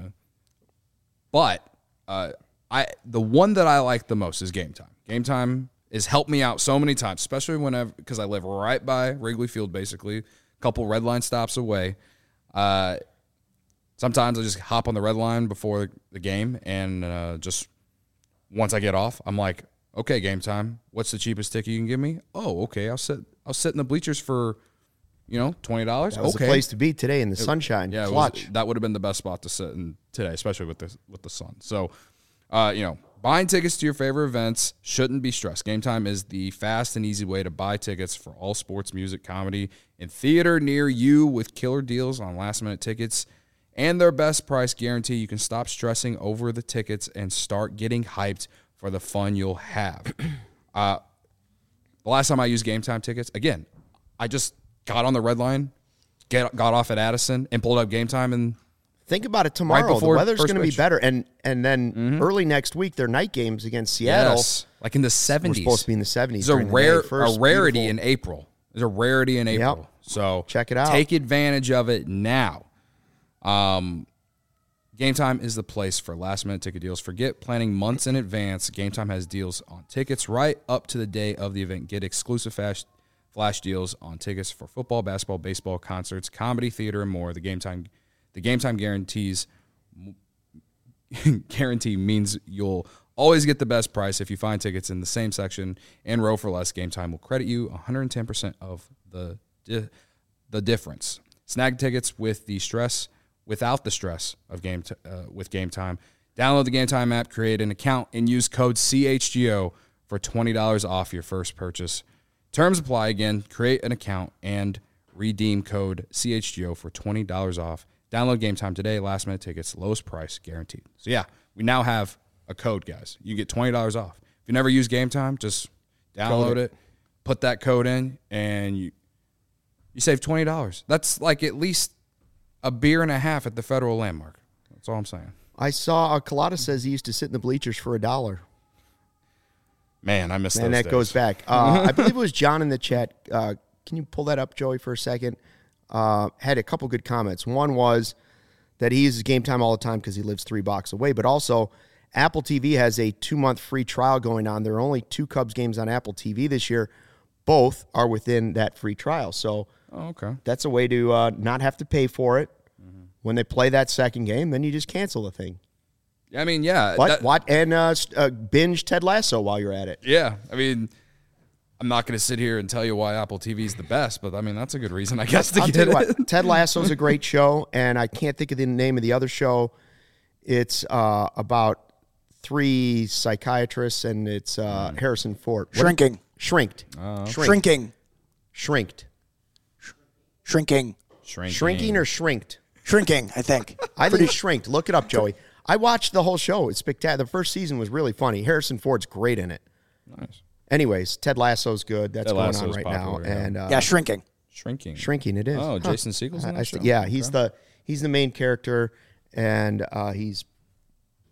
But the one that I like the most is Game Time. Game Time has helped me out so many times, especially because I live right by Wrigley Field, basically, a couple red line stops away. Sometimes I just hop on the red line before the game, and just once I get off, I'm like, okay, Game Time. What's the cheapest ticket you can give me? Oh, okay. I'll sit in the bleachers for, $20. That was the place to be today in the sunshine. Yeah, Clutch. That would have been the best spot to sit in today, especially with the sun. So, buying tickets to your favorite events shouldn't be stressed. Game Time is the fast and easy way to buy tickets for all sports, music, comedy, and theater near you with killer deals on last-minute tickets and their best price guarantee. You can stop stressing over the tickets and start getting hyped for the fun you'll have. The last time I used Game Time tickets, again, I just got on the red line, got off at Addison, and pulled up Game Time. And think about it tomorrow. The weather's going to be better. And then early next week, their night games against Seattle. Yes, like in the 70s. We're supposed to be in the 70s. There's a rarity in April. There's a rarity in April. Yep. So check it out. Take advantage of it now. Game Time is the place for last-minute ticket deals. Forget planning months in advance. Game Time has deals on tickets right up to the day of the event. Get exclusive flash deals on tickets for football, basketball, baseball, concerts, comedy, theater, and more. The Game Time guarantee means you'll always get the best price. If you find tickets in the same section and row for less, Game Time will credit you 110% of the difference. Snag tickets without the stress of with Game Time. Download the Game Time app, create an account, and use code CHGO for $20 off your first purchase. Terms apply. Again, create an account and redeem code CHGO for $20 off. Download Game Time today. Last minute tickets, lowest price guaranteed. So yeah, we now have a code, guys. You get $20 off. If you never use Game Time, just download it, put that code in, and you save $20. That's like at least a beer and a half at the Federal Landmark. That's all I'm saying. I saw Colada says he used to sit in the bleachers for $1. Man, I missed those days. And that goes back. I believe it was John in the chat. Can you pull that up, Joey, for a second? Had a couple good comments. One was that he uses Game Time all the time because he lives 3 blocks away, but also Apple TV has a 2-month free trial going on. There are only 2 Cubs games on Apple TV this year. Both are within that free trial. So that's a way to not have to pay for it. Mm-hmm. When they play that second game, then you just cancel the thing. I mean, yeah. Binge Ted Lasso while you're at it. Yeah. I mean, I'm not going to sit here and tell you why Apple TV is the best, but I mean, that's a good reason, I guess, to get it. Ted Lasso's a great show, and I can't think of the name of the other show. It's about 3 psychiatrists, and it's Harrison Ford. Shrinking. Shrinked. Shrinking. Shrinked. Shrinking. Shrinking or shrinked? Shrinking, I think. I think it's shrinked. Look it up, Joey. I watched the whole show. It's spectacular. The first season was really funny. Harrison Ford's great in it. Nice. Anyways, Ted Lasso's good. That's going on right popular, now. Yeah. And Shrinking. Shrinking it is. Oh, Jason Segel's in that show? Yeah, he's the main character, and he's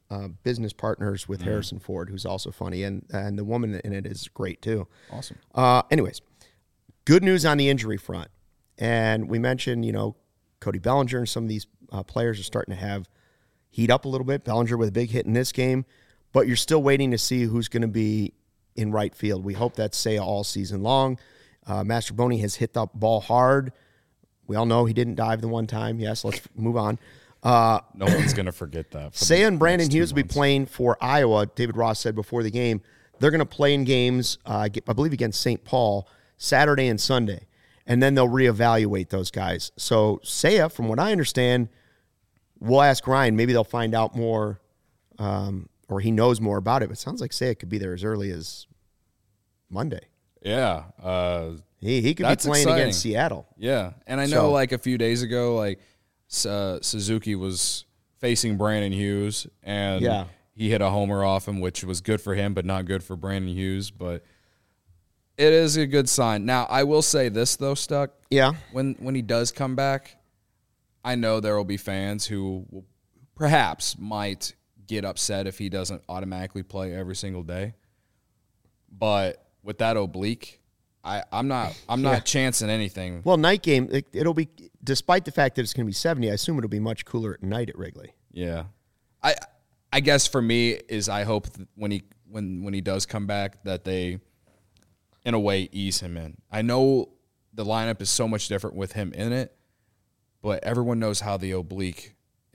business partners with Harrison Ford, who's also funny, and the woman in it is great too. Awesome. Anyways, good news on the injury front, and we mentioned Cody Bellinger and some of these players are starting to heat up a little bit. Bellinger with a big hit in this game, but you're still waiting to see who's going to be in right field. We hope that's Seiya all season long. Mastrobuoni has hit the ball hard. We all know he didn't dive the one time. Yes, let's move on. No one's going to forget that. Seiya and Brandon Hughes will be playing for Iowa. David Ross said before the game, they're going to play in games, I believe, against St. Paul, Saturday and Sunday. And then they'll reevaluate those guys. So Seiya, from what I understand, we'll ask Ryan. Maybe they'll find out more, or he knows more about it. But it sounds like Seiya could be there as early as Monday. Yeah. He could be playing against Seattle. Yeah. And I know like a few days ago, like Suzuki was facing Brandon Hughes, and he hit a homer off him, which was good for him, but not good for Brandon Hughes. But it is a good sign. Now, I will say this, though, Stuck. Yeah. When he does come back, I know there will be fans who will perhaps might get upset if he doesn't automatically play every single day. But with that oblique, I'm not chancing anything. Well, night game, it'll be, despite the fact that it's going to be 70, I assume it'll be much cooler at night at Wrigley. Yeah. I guess for me is I hope that when he does come back that they, in a way, ease him in. I know the lineup is so much different with him in it, but everyone knows how an oblique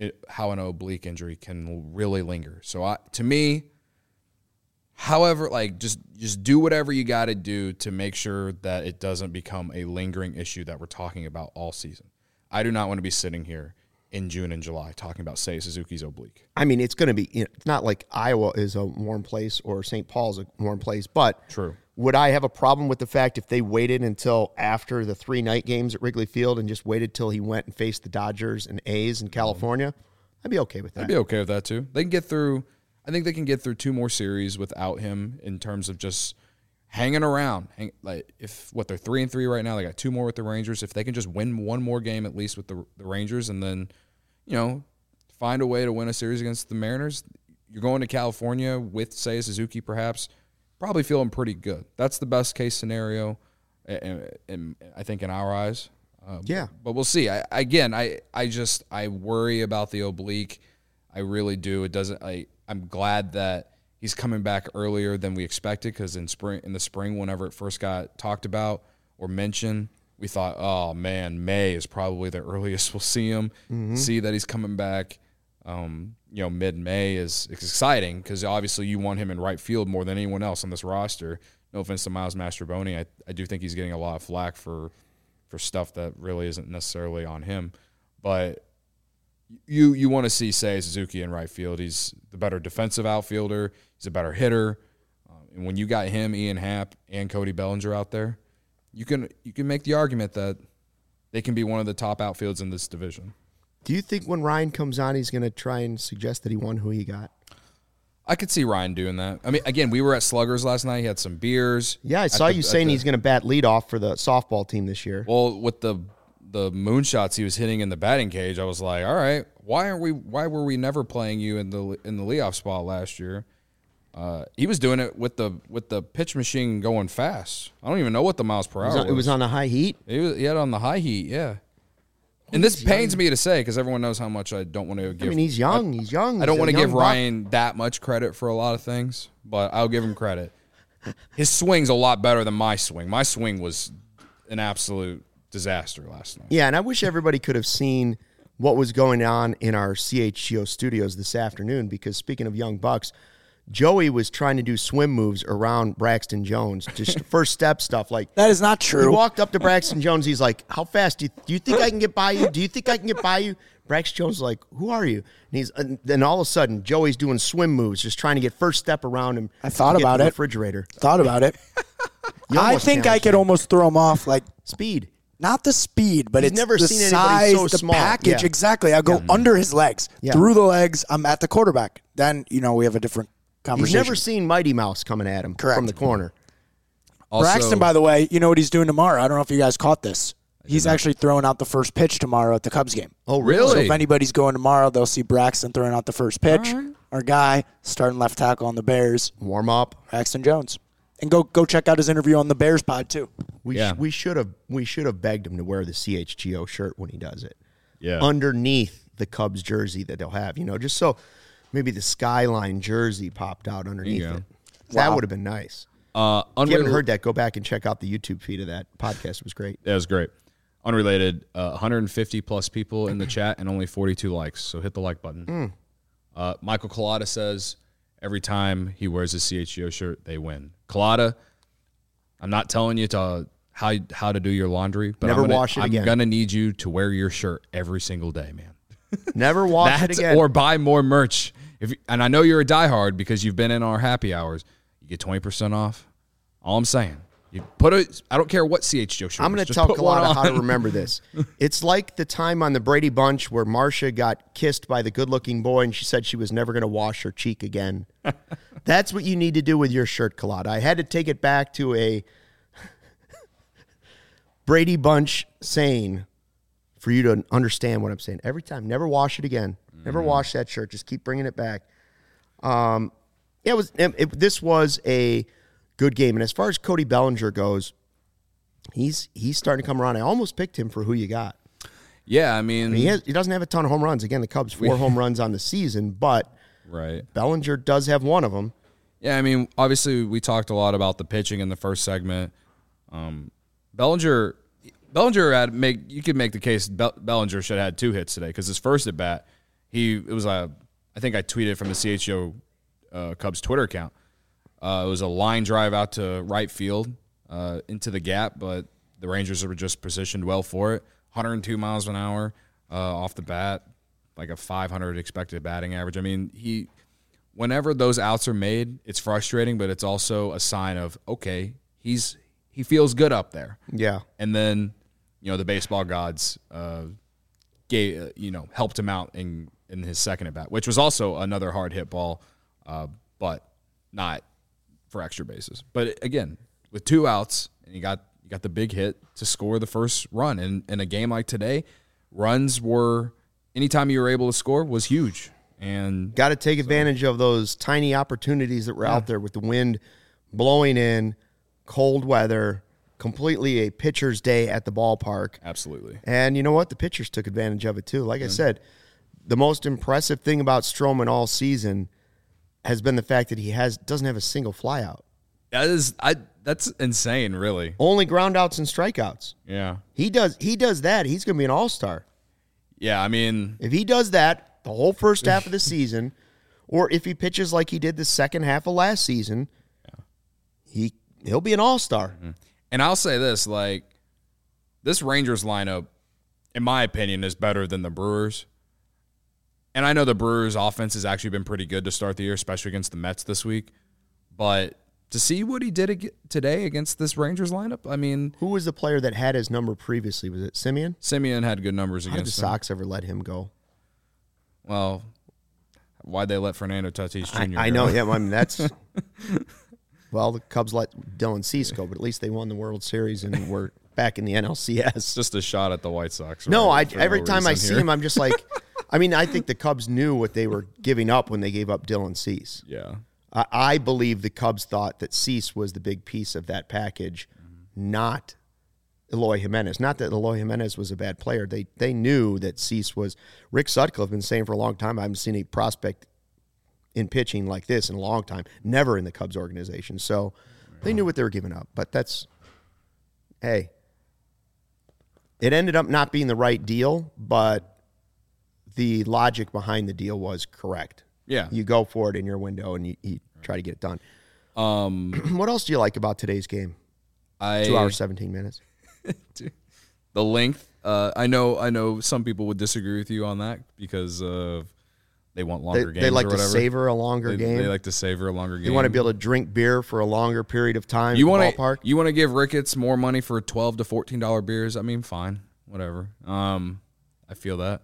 injury can really linger. So to me, however, like just do whatever you got to do to make sure that it doesn't become a lingering issue that we're talking about all season. I do not want to be sitting here in June and July talking about Seiya Suzuki's oblique. I mean, it's going to be, it's not like Iowa is a warm place or St. Paul's a warm place, but true. Would I have a problem with the fact if they waited until after the 3 night games at Wrigley Field and just waited till he went and faced the Dodgers and A's in California? I'd be okay with that. I'd be okay with that too. They can get through. I think they can get through 2 more series without him in terms of just hanging around. Like they're 3-3 right now. They got 2 more with the Rangers. If they can just win 1 more game at least with the Rangers, and then find a way to win a series against the Mariners, you're going to California with Seiya Suzuki perhaps. Probably feeling pretty good. That's the best case scenario, and I think in our eyes. But we'll see. I worry about the oblique. I really do. It doesn't. I'm glad that he's coming back earlier than we expected, because in the spring, whenever it first got talked about or mentioned, we thought, oh man, May is probably the earliest we'll see him. Mm-hmm. See that he's coming back. Mid-May is exciting because obviously you want him in right field more than anyone else on this roster. No offense to Miles Mastrobuoni. I do think he's getting a lot of flack for stuff that really isn't necessarily on him. But you want to see Seiya Suzuki in right field. He's the better defensive outfielder. He's a better hitter. And when you got him, Ian Happ, and Cody Bellinger out there, you can make the argument that they can be one of the top outfields in this division. Do you think when Ryan comes on, he's going to try and suggest that he won who he got? I could see Ryan doing that. I mean, again, we were at Sluggers last night. He had some beers. Yeah, I saw you saying he's going to bat leadoff for the softball team this year. Well, with the moonshots he was hitting in the batting cage, I was like, all right, why were we never playing you in the leadoff spot last year? He was doing it with the pitch machine going fast. I don't even know what the miles per hour was. It was on the high heat? He had it on the high heat, yeah. And this pains me to say because everyone knows how much I don't want to give. I mean, he's young. He's young. I don't want to give Ryan that much credit for a lot of things, but I'll give him credit. His swing's a lot better than my swing. My swing was an absolute disaster last night. Yeah, and I wish everybody could have seen what was going on in our CHGO studios this afternoon, because speaking of young bucks, Joey was trying to do swim moves around Braxton Jones, just first step stuff. Like, that is not true. He walked up to Braxton Jones. He's like, how fast? Do you think I can get by you? Do you think I can get by you? Braxton Jones is like, who are you? And then all of a sudden, Joey's doing swim moves, just trying to get first step around him. I thought about it. Refrigerator. Thought about it. I think I could almost throw him off, like speed. Not the speed, but it's never the seen size, so the small. package. Yeah. Exactly. I go under his legs, through the legs. I'm at the quarterback. Then, we have a different conversation. He's never seen Mighty Mouse coming at him from the corner. Also, Braxton, by the way, you know what he's doing tomorrow? I don't know if you guys caught this. He's actually throwing out the first pitch tomorrow at the Cubs game. Oh, really? So if anybody's going tomorrow, they'll see Braxton throwing out the first pitch. our guy, starting left tackle on the Bears. Warm up. Braxton Jones. And go check out his interview on the Bears pod, too. We should have begged him to wear the CHGO shirt when he does it. Yeah. Underneath the Cubs jersey that they'll have, just so maybe the Skyline jersey popped out underneath it. That would have been nice. If you haven't heard that, go back and check out the YouTube feed of that podcast. It was great. That was great. Unrelated, 150 plus people in the chat and only 42 likes. So hit the like button. Michael Collada says every time he wears a CHGO shirt, they win. Collada, I'm not telling you how to do your laundry, but Never wash it again. I'm gonna need you to wear your shirt every single day, man. Never wash it again. Or buy more merch. And I know you're a diehard because you've been in our happy hours. You get 20% off. All I'm saying. I don't care what CHGO shirt. I'm going to tell Collada how to remember this. It's like the time on the Brady Bunch where Marcia got kissed by the good-looking boy and she said she was never going to wash her cheek again. That's what you need to do with your shirt, Collada. I had to take it back to a Brady Bunch saying for you to understand what I'm saying. Every time, never wash it again. Never wash that shirt. Just keep bringing it back. This was a good game. And as far as Cody Bellinger goes, he's starting to come around. I almost picked him for who you got. Yeah, I mean he doesn't have a ton of home runs. Again, the Cubs 4 home runs on the season, but Bellinger does have one of them. Yeah, I mean, obviously we talked a lot about the pitching in the first segment. Bellinger you could make the case Bellinger should have had 2 hits today because his first at bat, I think I tweeted from the CHGO Cubs Twitter account. It was a line drive out to right field into the gap, but the Rangers were just positioned well for it. 102 miles an hour off the bat, like a 500 expected batting average. I mean, whenever those outs are made, it's frustrating, but it's also a sign of, okay, he feels good up there. Yeah. And then, the baseball gods helped him out in his second at bat, which was also another hard hit ball, but not for extra bases. But again, with 2 outs, and you got the big hit to score the first run. And in a game like today, runs were anytime you were able to score was huge. And got to take advantage of those tiny opportunities that were out there with the wind blowing in, cold weather, completely a pitcher's day at the ballpark. Absolutely. And you know what? The pitchers took advantage of it too. Like I said, the most impressive thing about Stroman all season has been the fact that he doesn't have a single flyout. That's insane, really. Only groundouts and strikeouts. Yeah. He does that, he's going to be an all-star. Yeah, I mean, if he does that the whole first half of the season, or if he pitches like he did the second half of last season, he'll be an all-star. And I'll say this, this Rangers lineup, in my opinion, is better than the Brewers. And I know the Brewers' offense has actually been pretty good to start the year, especially against the Mets this week. But to see what he did today against this Rangers lineup, I mean... Who was the player that had his number previously? Was it Simeon? Simeon had good numbers against him. How did the Sox ever let him go? Well, why'd they let Fernando Tatis Jr. I know, yeah. I mean, that's... Well, the Cubs let Dylan Cease go, but at least they won the World Series and were back in the NLCS. It's just a shot at the White Sox. No, every time I see him, I'm just like... I think the Cubs knew what they were giving up when they gave up Dylan Cease. Yeah. I believe the Cubs thought that Cease was the big piece of that package, not Eloy Jimenez. Not that Eloy Jimenez was a bad player. They knew that Cease was. Rick Sutcliffe been saying for a long time, I haven't seen a prospect in pitching like this in a long time. Never in the Cubs organization. So they knew what they were giving up. But it ended up not being the right deal, but the logic behind the deal was correct. Yeah. You go for it in your window and you try to get it done. What else do you like about today's game? 2 hours, 17 minutes. The length. I know some people would disagree with you on that because they want longer games. They like or to whatever. savor a longer game. They like to savor a longer game. You want to be able to drink beer for a longer period of time you at the ballpark. You want to give Ricketts more money for $12 to $14 beers? I mean, fine. Whatever. I feel that.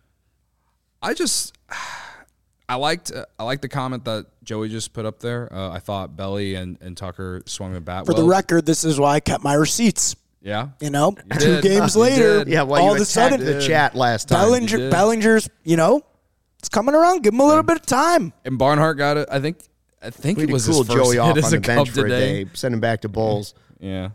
I liked the comment that Joey just put up there. I thought Belly and Tucker swung the bat For the record, this is why I kept my receipts. Yeah. You know, 2 games later, yeah, well, all you of a sudden, the chat last time. Bellinger's, It's coming around. Give him a little bit of time. And Barnhart got it. I think it was cool his first Joey hit off as on a the bench Cub for today. a day. Send him back to Bulls. Yeah.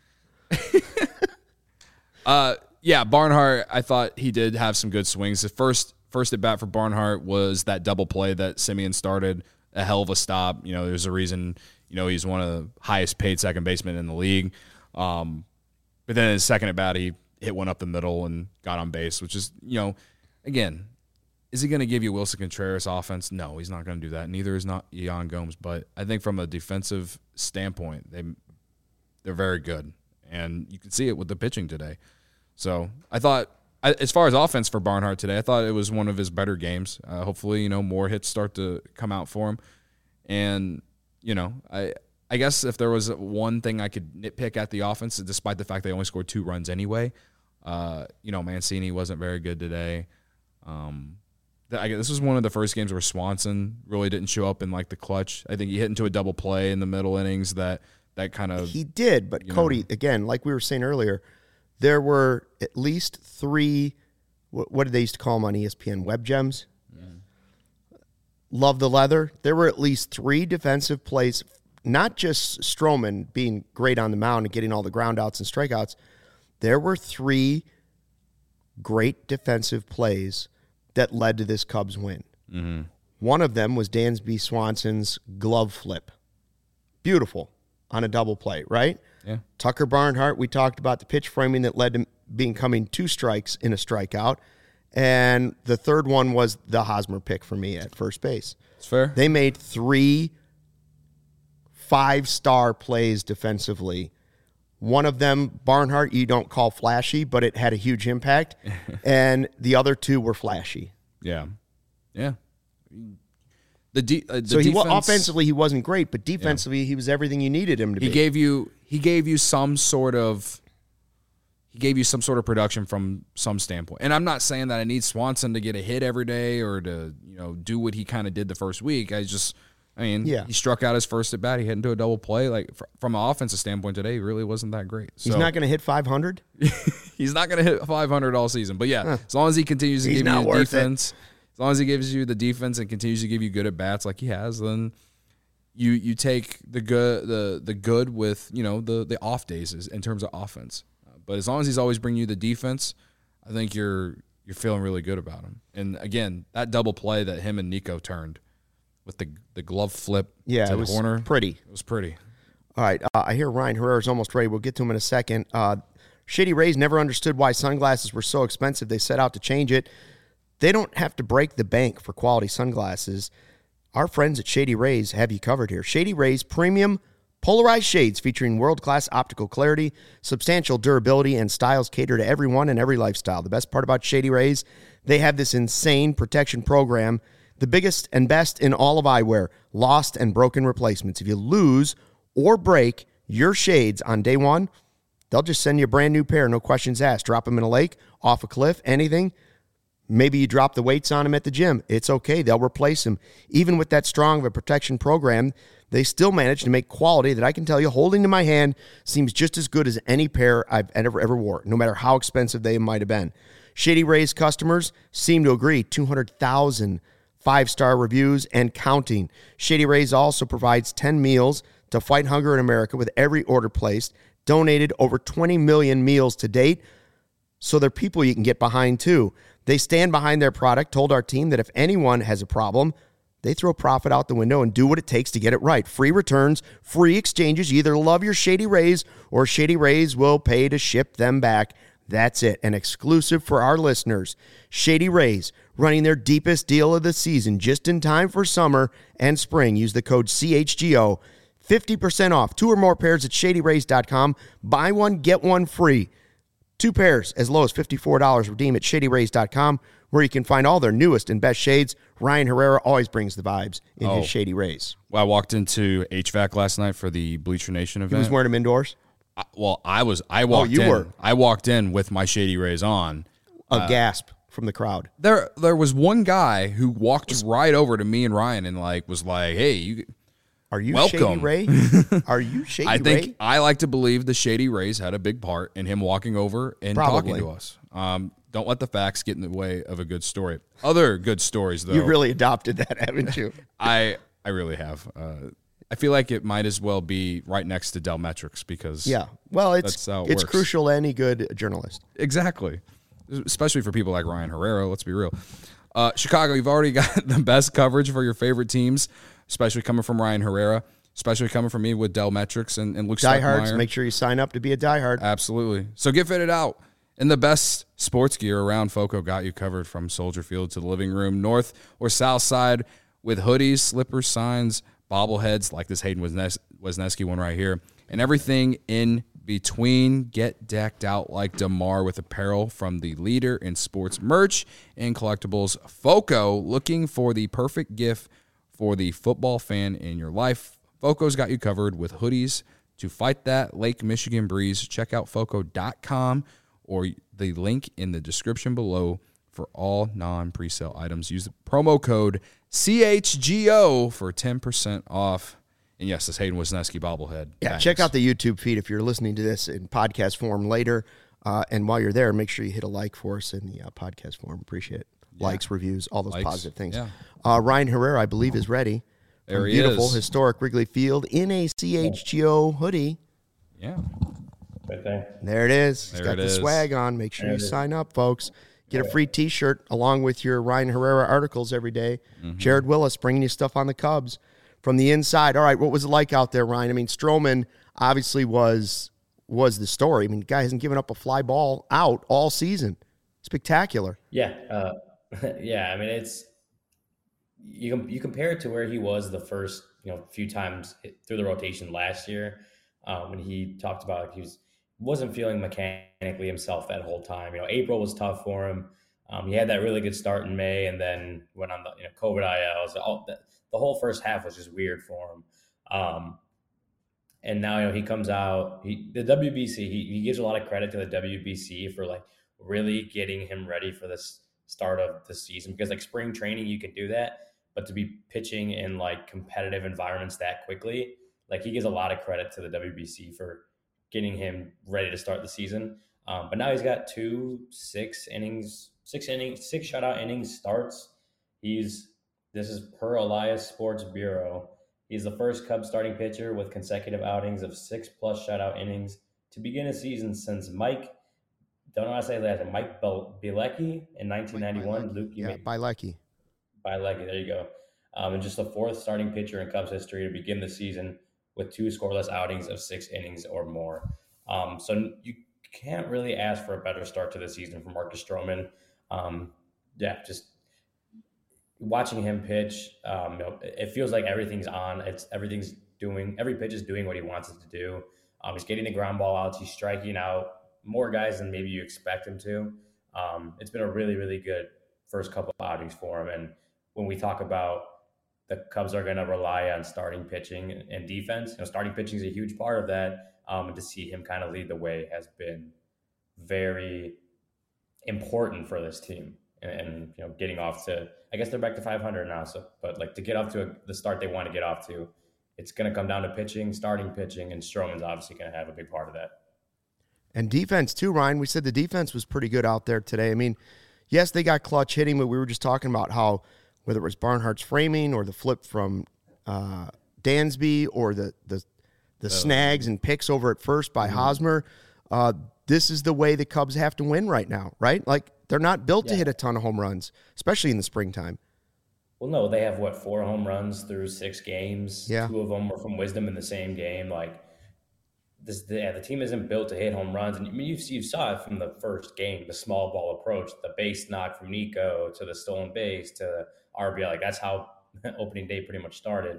Yeah, Barnhart, I thought he did have some good swings. The first at bat for Barnhart was that double play that Semien started, a hell of a stop. There's a reason, he's one of the highest paid second basemen in the league. But then his second at bat, he hit one up the middle and got on base, which is, again, is he going to give you Wilson Contreras offense? No, he's not going to do that. Neither is not Yan Gomes. But I think from a defensive standpoint, they're very good. And you can see it with the pitching today. So I thought, as far as offense for Barnhart today, I thought it was one of his better games. Hopefully, more hits start to come out for him. And, I guess if there was one thing I could nitpick at the offense, despite the fact they only scored 2 runs anyway, Mancini wasn't very good today. This was one of the first games where Swanson really didn't show up in like the clutch. I think he hit into a double play in the middle innings that kind of... He did, but Cody, again, like we were saying earlier, there were at least 3, what did they used to call them on ESPN, web gems? Love the leather. There were at least 3 defensive plays, not just Stroman being great on the mound and getting all the ground outs and strikeouts. There were 3 great defensive plays that led to this Cubs win. Mm-hmm. One of them was Dansby Swanson's glove flip. Beautiful on a double play, right? Yeah. Tucker Barnhart, we talked about the pitch framing that led to becoming 2 strikes in a strikeout. And the third one was the Hosmer pick for me at first base. It's fair. They made 3 5-star plays defensively. One of them, Barnhart, you don't call flashy, but it had a huge impact. And the other 2 were flashy. Yeah. Yeah. So defense, offensively he wasn't great, but defensively he was everything you needed him to be. He gave you some sort of production from some standpoint. And I'm not saying that I need Swanson to get a hit every day or to, do what he kind of did the first week. He struck out his first at bat. He hit into a double play. Like from an offensive standpoint today, he really wasn't that great. So, he's not going to hit 500? He's not going to hit 500 all season. But yeah, as long as he continues to give you the defense, as long as he gives you the defense and continues to give you good at bats like he has, then you take the good with the off days in terms of offense. But as long as he's always bringing you the defense, I think you're feeling really good about him. And again, that double play that him and Nico turned with the glove flip to the corner, pretty. It was pretty. All right, I hear Ryan Herrera's almost ready. We'll get to him in a second. Shady Rays never understood why sunglasses were so expensive. They set out to change it. They don't have to break the bank for quality sunglasses. Our friends at Shady Rays have you covered here. Shady Rays premium polarized shades featuring world-class optical clarity, substantial durability, and styles cater to everyone and every lifestyle. The best part about Shady Rays, they have this insane protection program, the biggest and best in all of eyewear, lost and broken replacements. If you lose or break your shades on day 1, they'll just send you a brand new pair, no questions asked. Drop them in a lake, off a cliff, anything. Maybe you drop the weights on them at the gym. It's okay. They'll replace them. Even with that strong of a protection program, they still manage to make quality that I can tell you, holding to my hand, seems just as good as any pair I've ever wore, no matter how expensive they might have been. Shady Rays customers seem to agree. 200,000 5-star reviews and counting. Shady Rays also provides 10 meals to fight hunger in America with every order placed. Donated over 20 million meals to date. So they're people you can get behind too. They stand behind their product, told our team that if anyone has a problem, they throw profit out the window and do what it takes to get it right. Free returns, free exchanges. You either love your Shady Rays or Shady Rays will pay to ship them back. That's it. An exclusive for our listeners. Shady Rays running their deepest deal of the season just in time for summer and spring. Use the code CHGO. 50% off 2 or more pairs at ShadyRays.com. Buy one, get one free. 2 pairs as low as $54. Redeem at ShadyRays.com, where you can find all their newest and best shades. Ryan Herrera always brings the vibes in his Shady Rays. Well, I walked into HVAC last night for the Bleacher Nation event. He was wearing them indoors? I walked in with my Shady Rays on. A gasp from the crowd. There was one guy who walked right over to me and Ryan and was like, "Hey, are you welcome. Shady Ray? Are you Shady Ray?" I think I like to believe the Shady Rays had a big part in him walking over and talking to us. Don't let the facts get in the way of a good story. Other good stories, though. You really adopted that, haven't you? I really have. I feel like it might as well be right next to Dell Metrics because well, it's works. crucial to any good journalist. Exactly, especially for people like Ryan Herrera. Let's be real. Chicago, you've already got the best coverage for your favorite teams, especially coming from Ryan Herrera, especially coming from me with Dell Metrics and Luke Diehards, make sure you sign up to be a diehard. Absolutely. So get fitted out in the best sports gear around. Foco got you covered from Soldier Field to the living room, north or south side, with hoodies, slippers, signs, bobbleheads like this Hayden Wesneski one right here, and everything in between. Get decked out like DeMar with apparel from the leader in sports merch and collectibles, Foco. Looking for the perfect gift for the football fan in your life? Foco's got you covered with hoodies to fight that Lake Michigan breeze. Check out Foco.com or the link in the description below for all non-presale items. Use the promo code CHGO for 10% off. And yes, this Hayden Wesneski bobblehead. Yeah, Thanks. check out the YouTube feed if you're listening to this in podcast form later. And while you're there, make sure you hit a like for us in the podcast form. Appreciate it. Yeah. Likes, reviews, all those positive things. Yeah. Ryan Herrera, I believe, is ready. There he beautiful, is. Historic Wrigley Field in a CHGO hoodie. Yeah. Right there. There it is. He's there got the is. swag on. Make sure you sign up, folks. Get a free T-shirt along with your Ryan Herrera articles every day. Mm-hmm. Jared Willis bringing you stuff on the Cubs from the inside. All right, what was it like out there, Ryan? I mean, Stroman obviously was the story. I mean, the guy hasn't given up a fly ball out all season. Spectacular. Yeah. Yeah, I mean, it's you compare it to where he was the first few times through the rotation last year, when he talked about like he wasn't feeling mechanically himself that whole time. April was tough for him. He had that really good start in May, and then went on the COVID ILs. The whole first half was just weird for him. And now he comes out. The WBC. He gives a lot of credit to the WBC for like really getting him ready for this start of the season, because like spring training you can do that, but to be pitching in like competitive environments that quickly, like he gives a lot of credit to the WBC for getting him ready to start the season. But now he's got 6 shutout innings starts. This is per Elias Sports Bureau. He's the first Cubs starting pitcher with consecutive outings of 6+ shutout innings to begin a season since Mike Bielecki in 1991. Luke, Bielecki. Bielecki, there you go. And just the 4th starting pitcher in Cubs history to begin the season with 2 scoreless outings of 6 innings or more. So you can't really ask for a better start to the season for Marcus Stroman. Just watching him pitch, it feels like everything's on. Every pitch is doing what he wants it to do. He's getting the ground ball outs. He's striking out more guys than maybe you expect him to. It's been a really, really good first couple of outings for him. And when we talk about the Cubs are going to rely on starting pitching and defense, starting pitching is a huge part of that. And to see him kind of lead the way has been very important for this team. And getting off to, I guess they're back to 500 now. So, but like to get off to the start they want to get off to, it's going to come down to pitching, starting pitching, and Stroman's obviously going to have a big part of that. And defense too, Ryan. We said the defense was pretty good out there today. I mean, yes, they got clutch hitting, but we were just talking about how whether it was Barnhart's framing or the flip from Dansby or the snags and picks over at first by Hosmer, this is the way the Cubs have to win right now, right? Like they're not built to hit a ton of home runs, especially in the springtime. Well, no, they have 4 home runs through 6 games. Yeah. 2 of them were from Wisdom in the same game. Like the team isn't built to hit home runs. And I mean, you saw it from the first game, the small ball approach, the base knock from Nico to the stolen base to the RBI. Like that's how opening day pretty much started.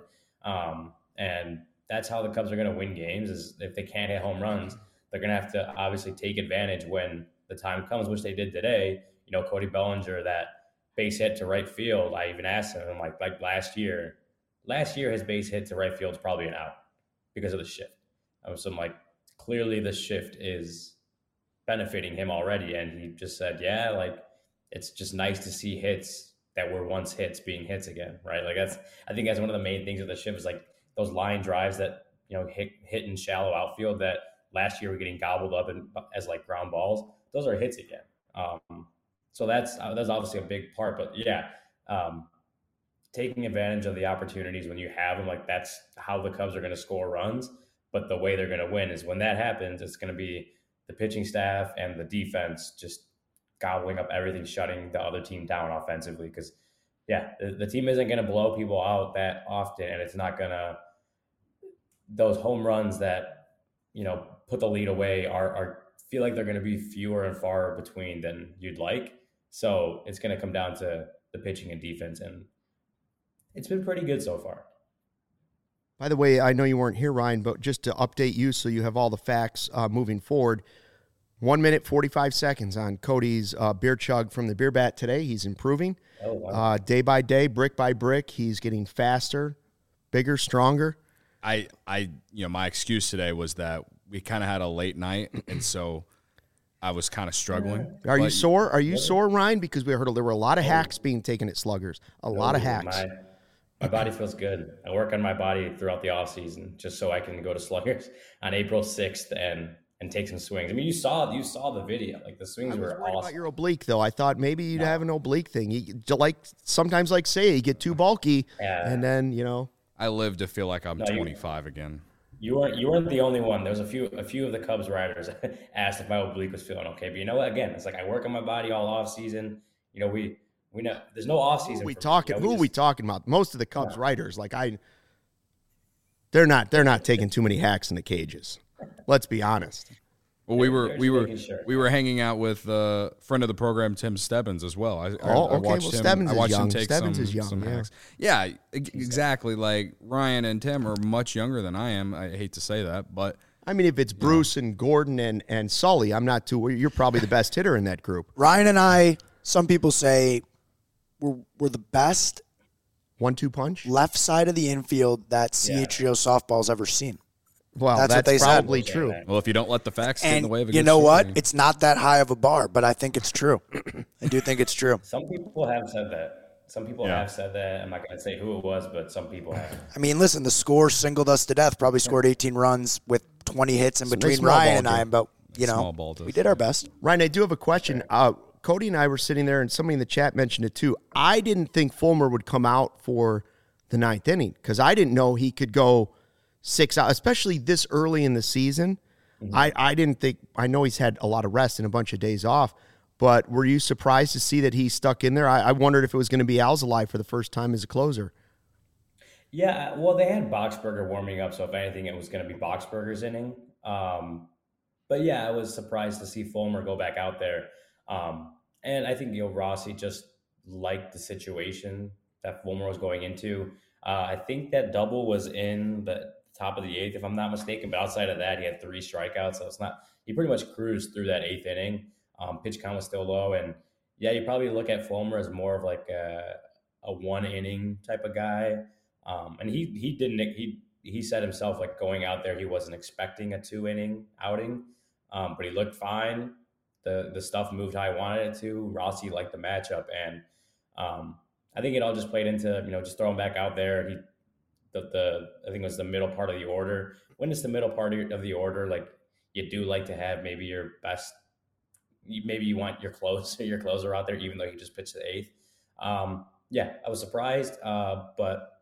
And that's how the Cubs are going to win games, is if they can't hit home runs, they're going to have to obviously take advantage when the time comes, which they did today. Cody Bellinger, that base hit to right field. I even asked him, like last year his base hit to right field is probably an out because of the shift. So I'm like, clearly the shift is benefiting him already. And he just said, yeah, like it's just nice to see hits that were once hits being hits again, right? Like I think that's one of the main things of the shift is like those line drives that, hit in shallow outfield that last year were getting gobbled up as like ground balls. Those are hits again. So that's obviously a big part. But yeah, taking advantage of the opportunities when you have them, like that's how the Cubs are going to score runs. But the way they're going to win is when that happens, it's going to be the pitching staff and the defense just gobbling up everything, shutting the other team down offensively. Because, yeah, the team isn't going to blow people out that often, and it's not going to – those home runs that, put the lead away are feel like they're going to be fewer and far between than you'd like. So it's going to come down to the pitching and defense, and it's been pretty good so far. By the way, I know you weren't here, Ryan, but just to update you so you have all the facts moving forward, 1 minute, 45 seconds on Cody's beer chug from the beer bat today. He's improving day by day, brick by brick. He's getting faster, bigger, stronger. My excuse today was that we kind of had a late night, and so I was kind of struggling. Are you sore? Are you sore, Ryan? Because we heard there were a lot of hacks being taken at Sluggers. A lot of hacks. My body feels good. I work on my body throughout the off season just so I can go to Sluggers on April 6th and take some swings. I mean, you saw the video. Like the swings were awesome. About your oblique though, I thought maybe you'd have an oblique thing. You sometimes say you get too bulky, and then I live to feel like I'm 25 again. You weren't the only one. There was a few of the Cubs riders asked if my oblique was feeling okay. But you know what? Again, it's like I work on my body all off season. We know there's no off season. Who are we talking about? Most of the Cubs writers, they're not taking too many hacks in the cages. Let's be honest. Well, we were hanging out with a friend of the program, Tim Stebbins, as well. I watched him. Stebbins I watched him take Stebbins is young. Some hacks. Yeah, exactly. Like Ryan and Tim are much younger than I am. I hate to say that, but I mean, if it's Bruce and Gordon and Sully, I'm not too. You're probably the best hitter in that group. Ryan and I. Some people say we're the best 1-2 punch left side of the infield that CHGO softball's ever seen. Well, that's what they probably said. True. Well, if you don't let the facts get in the way of a good you know what? It's not that high of a bar, but I think it's true. I do think it's true. Some people have said that. Have said that. I'm not going to say who it was, but some people have. I mean, listen, the score singled us to death. Probably scored 18 runs with 20 hits in between Ryan and I, but, we did our best. Ryan, I do have a question. Cody and I were sitting there, and somebody in the chat mentioned it too. I didn't think Fulmer would come out for the 9th inning because I didn't know he could go 6 out, especially this early in the season. Mm-hmm. I didn't think – I know he's had a lot of rest and a bunch of days off, but were you surprised to see that he stuck in there? I wondered if it was going to be Alzolay for the first time as a closer. Yeah, well, they had Boxberger warming up, so if anything, it was going to be Boxberger's inning. But, yeah, I was surprised to see Fulmer go back out there. And I think Rossi just liked the situation that Fulmer was going into. I think that double was in the top of the 8th, if I'm not mistaken. But outside of that, he had 3 strikeouts. So he pretty much cruised through that 8th inning. Pitch count was still low. And yeah, you probably look at Fulmer as more of like a 1 inning type of guy. And he said himself, like going out there, he wasn't expecting a 2 inning outing. But he looked fine. The stuff moved how I wanted it to. Rossi liked the matchup, and I think it all just played into just throw him back out there. I think it was the middle part of the order. When it's the middle part of the order, like you do like to have maybe your best. Maybe you want your closer out there, even though he just pitched the 8th. Yeah, I was surprised, but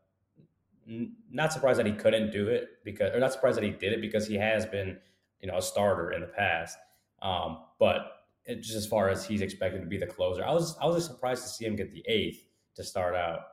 not surprised that he couldn't do it or not surprised that he did it because he has been a starter in the past. But just as far as he's expected to be the closer, I was just surprised to see him get the 8th to start out.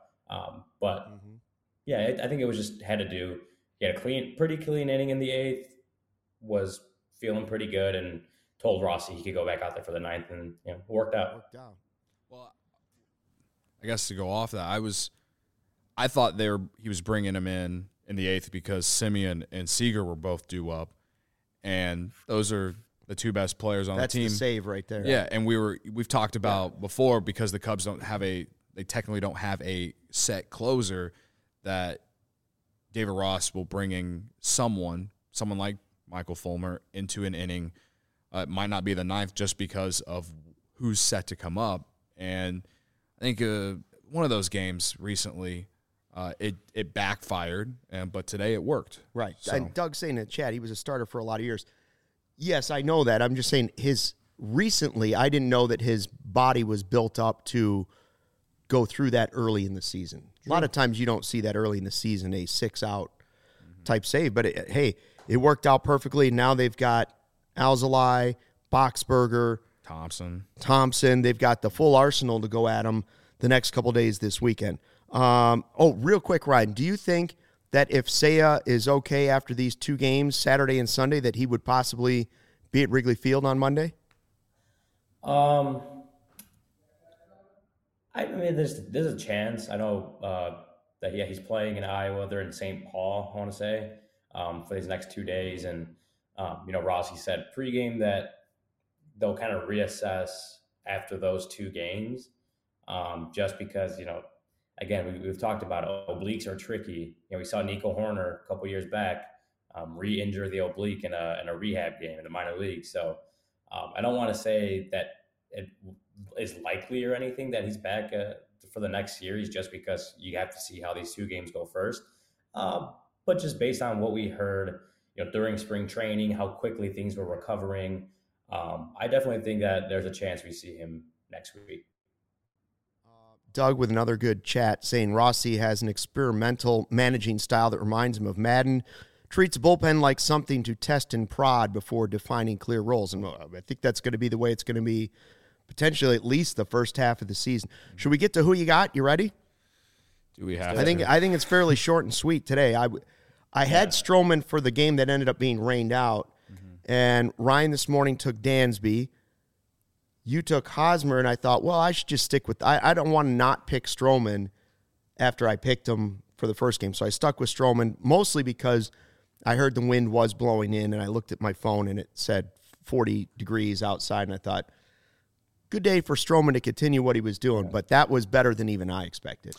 Yeah, I think it was just had to do. He had a pretty clean inning in the 8th, was feeling pretty good, and told Rossi he could go back out there for the 9th, and it worked out. Well, I guess to go off that, I thought he was bringing him in the 8th because Semien and Seager were both due up, and those are the 2 best players on the team. That's the save right there. Yeah, and we've talked about before because the Cubs they technically don't have a set closer that David Ross will bring in someone like Michael Fulmer into an inning. It might not be the 9th just because of who's set to come up. And I think one of those games recently, it backfired, but today it worked. Right. So. And Doug's saying in the chat he was a starter for a lot of years. Yes, I know that. I'm just saying recently I didn't know that his body was built up to go through that early in the season. True. A lot of times you don't see that early in the season, a 6-out type save. But, it worked out perfectly. Now they've got Alzolay, Boxberger, Thompson. They've got the full arsenal to go at them the next couple days this weekend. Real quick, Ryan, do you think that if Seiya is okay after these 2 games, Saturday and Sunday, that he would possibly be at Wrigley Field on Monday? I mean, there's a chance. I know that he's playing in Iowa. They're in St. Paul, I want to say, for these next 2 days. And Rossi said pregame that they'll kind of reassess after those 2 games, just because again we've talked about obliques are tricky. We saw Nico Horner a couple years back re-injure the oblique in a rehab game in the minor league. So I don't want to say that it is likely or anything that he's back for the next series, just because you have to see how these 2 games go first. But just based on what we heard, during spring training, how quickly things were recovering, I definitely think that there's a chance we see him next week. Doug with another good chat saying Rossi has an experimental managing style that reminds him of Madden. Treats a bullpen like something to test and prod before defining clear roles. And I think that's going to be the way it's going to be potentially at least the first half of the season. Should we get to who you got? You ready? Do we have I think it's fairly short and sweet today. I had Stroman for the game that ended up being rained out, and Ryan this morning took Dansby. You took Hosmer, and I thought, well, I should just stick with – I don't want to not pick Stroman after I picked him for the first game. So I stuck with Stroman, mostly because I heard the wind was blowing in, and I looked at my phone, and it said 40 degrees outside, and I thought, good day for Stroman to continue what he was doing, but that was better than even I expected.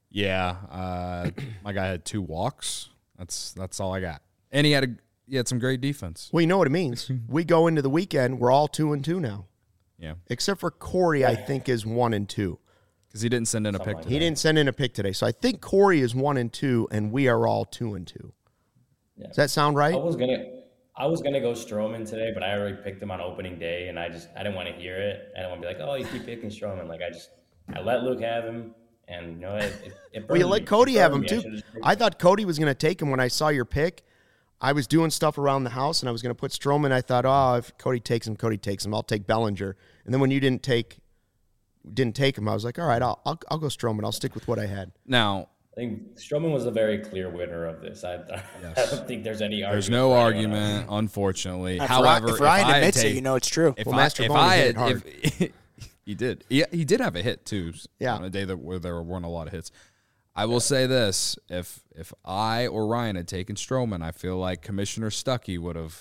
Yeah, my guy had 2 walks. That's all I got. And he had some great defense. Well, you know what it means. We go into the weekend, we're all 2-2 now. Yeah. Except for Corey, I think, is 1-2. Because he didn't send in a pick today. He didn't send in a pick today. So I think Corey is 1-2, and we are all 2-2. Yeah. Does that sound right? I was gonna go Stroman today, but I already picked him on opening day, and I didn't want to hear it. I didn't want to be like, oh, you keep picking Stroman. Like I let Luke have him, and it well, you let Cody have him too. I thought Cody was going to take him when I saw your pick. I was doing stuff around the house, and I was going to put Stroman. I thought, if Cody takes him, I'll take Bellinger. And then when you didn't take him, I was like, all right, I'll go Stroman. I'll stick with what I had. Now, I think Stroman was a very clear winner of this. I don't think there's any argument. There's no argument, unfortunately. However, if Ryan admits it, it's true. He did. He did have a hit too. Yeah. On a day where there weren't a lot of hits. I will say this: if I or Ryan had taken Stroman, I feel like Commissioner Stuckey would have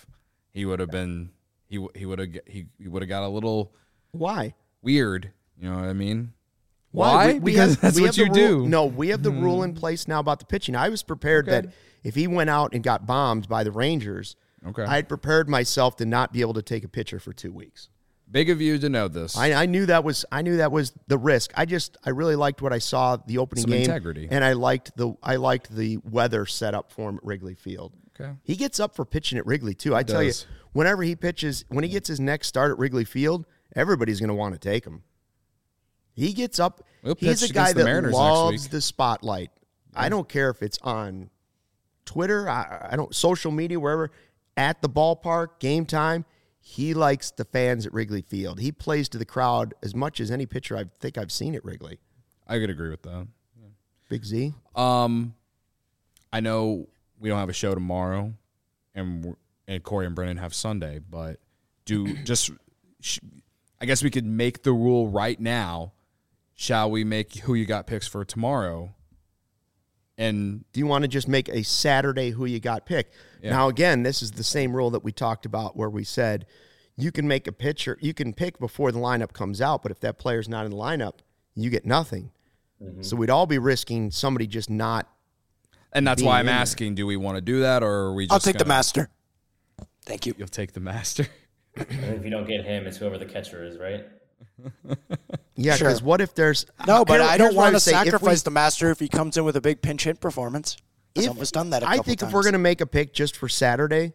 got a little weird. You know what I mean? Why? Because that's what you do. No, we have the rule in place now about the pitching. I was prepared that if he went out and got bombed by the Rangers, I had prepared myself to not be able to take a pitcher for 2 weeks. Big of you to know this. I knew that was the risk. I really liked what I saw the opening game. Integrity. And I liked the weather set up for him at Wrigley Field. Okay. He gets up for pitching at Wrigley too. I tell you, whenever he pitches, when he gets his next start at Wrigley Field, everybody's going to want to take him. He gets up. He's a guy that loves the spotlight. Yeah. I don't care if it's on Twitter, I don't social media, wherever, at the ballpark, game time. He likes the fans at Wrigley Field. He plays to the crowd as much as any pitcher I think I've seen at Wrigley. I could agree with that. Yeah. Big Z? I know we don't have a show tomorrow, and Corey and Brennan have Sunday, but I guess we could make the rule right now. Shall we make who you got picks for tomorrow? And do you want to just make a Saturday who you got pick? Yeah. Now, again, this is the same rule that we talked about where we said you can make a pitcher, you can pick before the lineup comes out, but if that player's not in the lineup, you get nothing. Mm-hmm. So we'd all be risking somebody just not. And that's why I'm asking, do we want to do that, or are we just I'll take the master. Thank you. You'll take the master. And if you don't get him, it's whoever the catcher is, right? Yeah, because what if there's... No, but I don't want to sacrifice the master if he comes in with a big pinch hit performance. He's almost done that a couple times. I think if we're going to make a pick just for Saturday,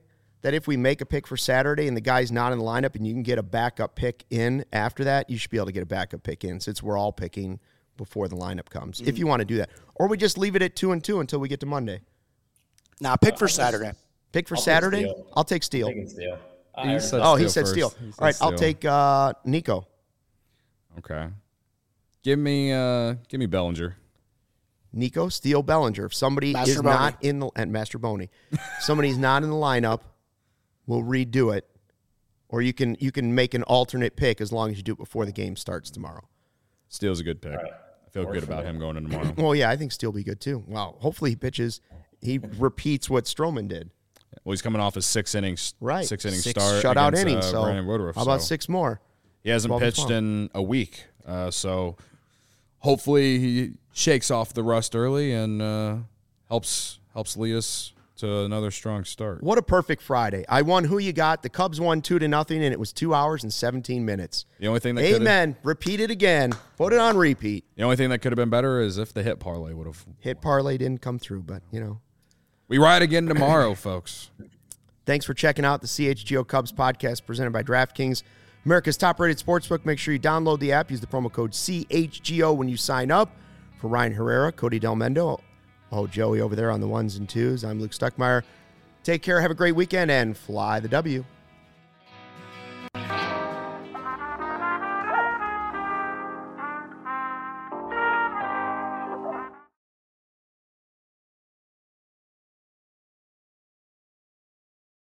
that if we make a pick for Saturday and the guy's not in the lineup and you can get a backup pick in after that, you should be able to get a backup pick in since we're all picking before the lineup comes, if you want to do that. Or we just leave it at 2-2 until we get to Monday. Nah, pick for Saturday. Pick for Saturday? I'll take Steele. He said Steele. All right, I'll take Nico. Okay. Give me Bellinger. Nico, Steele, Bellinger. If somebody is not in the and Master Boney, somebody's not in the lineup, we'll redo it. Or you can make an alternate pick as long as you do it before the game starts tomorrow. Steele's a good pick. Right. I feel good about him going in tomorrow. Well, yeah, I think Steele will be good too. Wow. Hopefully he pitches. He repeats what Stroman did. Well, he's coming off a 6 innings, right? 6 inning start, shutout innings. So Brandon Woodruff. How about 6 more? He hasn't pitched in a week, so hopefully he shakes off the rust early and helps lead us to another strong start. What a perfect Friday! I won Who You Got. The Cubs won 2-0, and it was 2 hours and 17 minutes. The only thing that amen. Repeat it again. Put it on repeat. The only thing that could have been better is if the hit parlay would have. Hit parlay didn't come through, but we ride again tomorrow, folks. Thanks for checking out the CHGO Cubs podcast presented by DraftKings, America's top-rated sportsbook. Make sure you download the app. Use the promo code CHGO when you sign up. For Ryan Herrera, Cody Del Mendo, Joey over there on the 1s and 2s, I'm Luke Stuckmeyer. Take care, have a great weekend, and fly the W.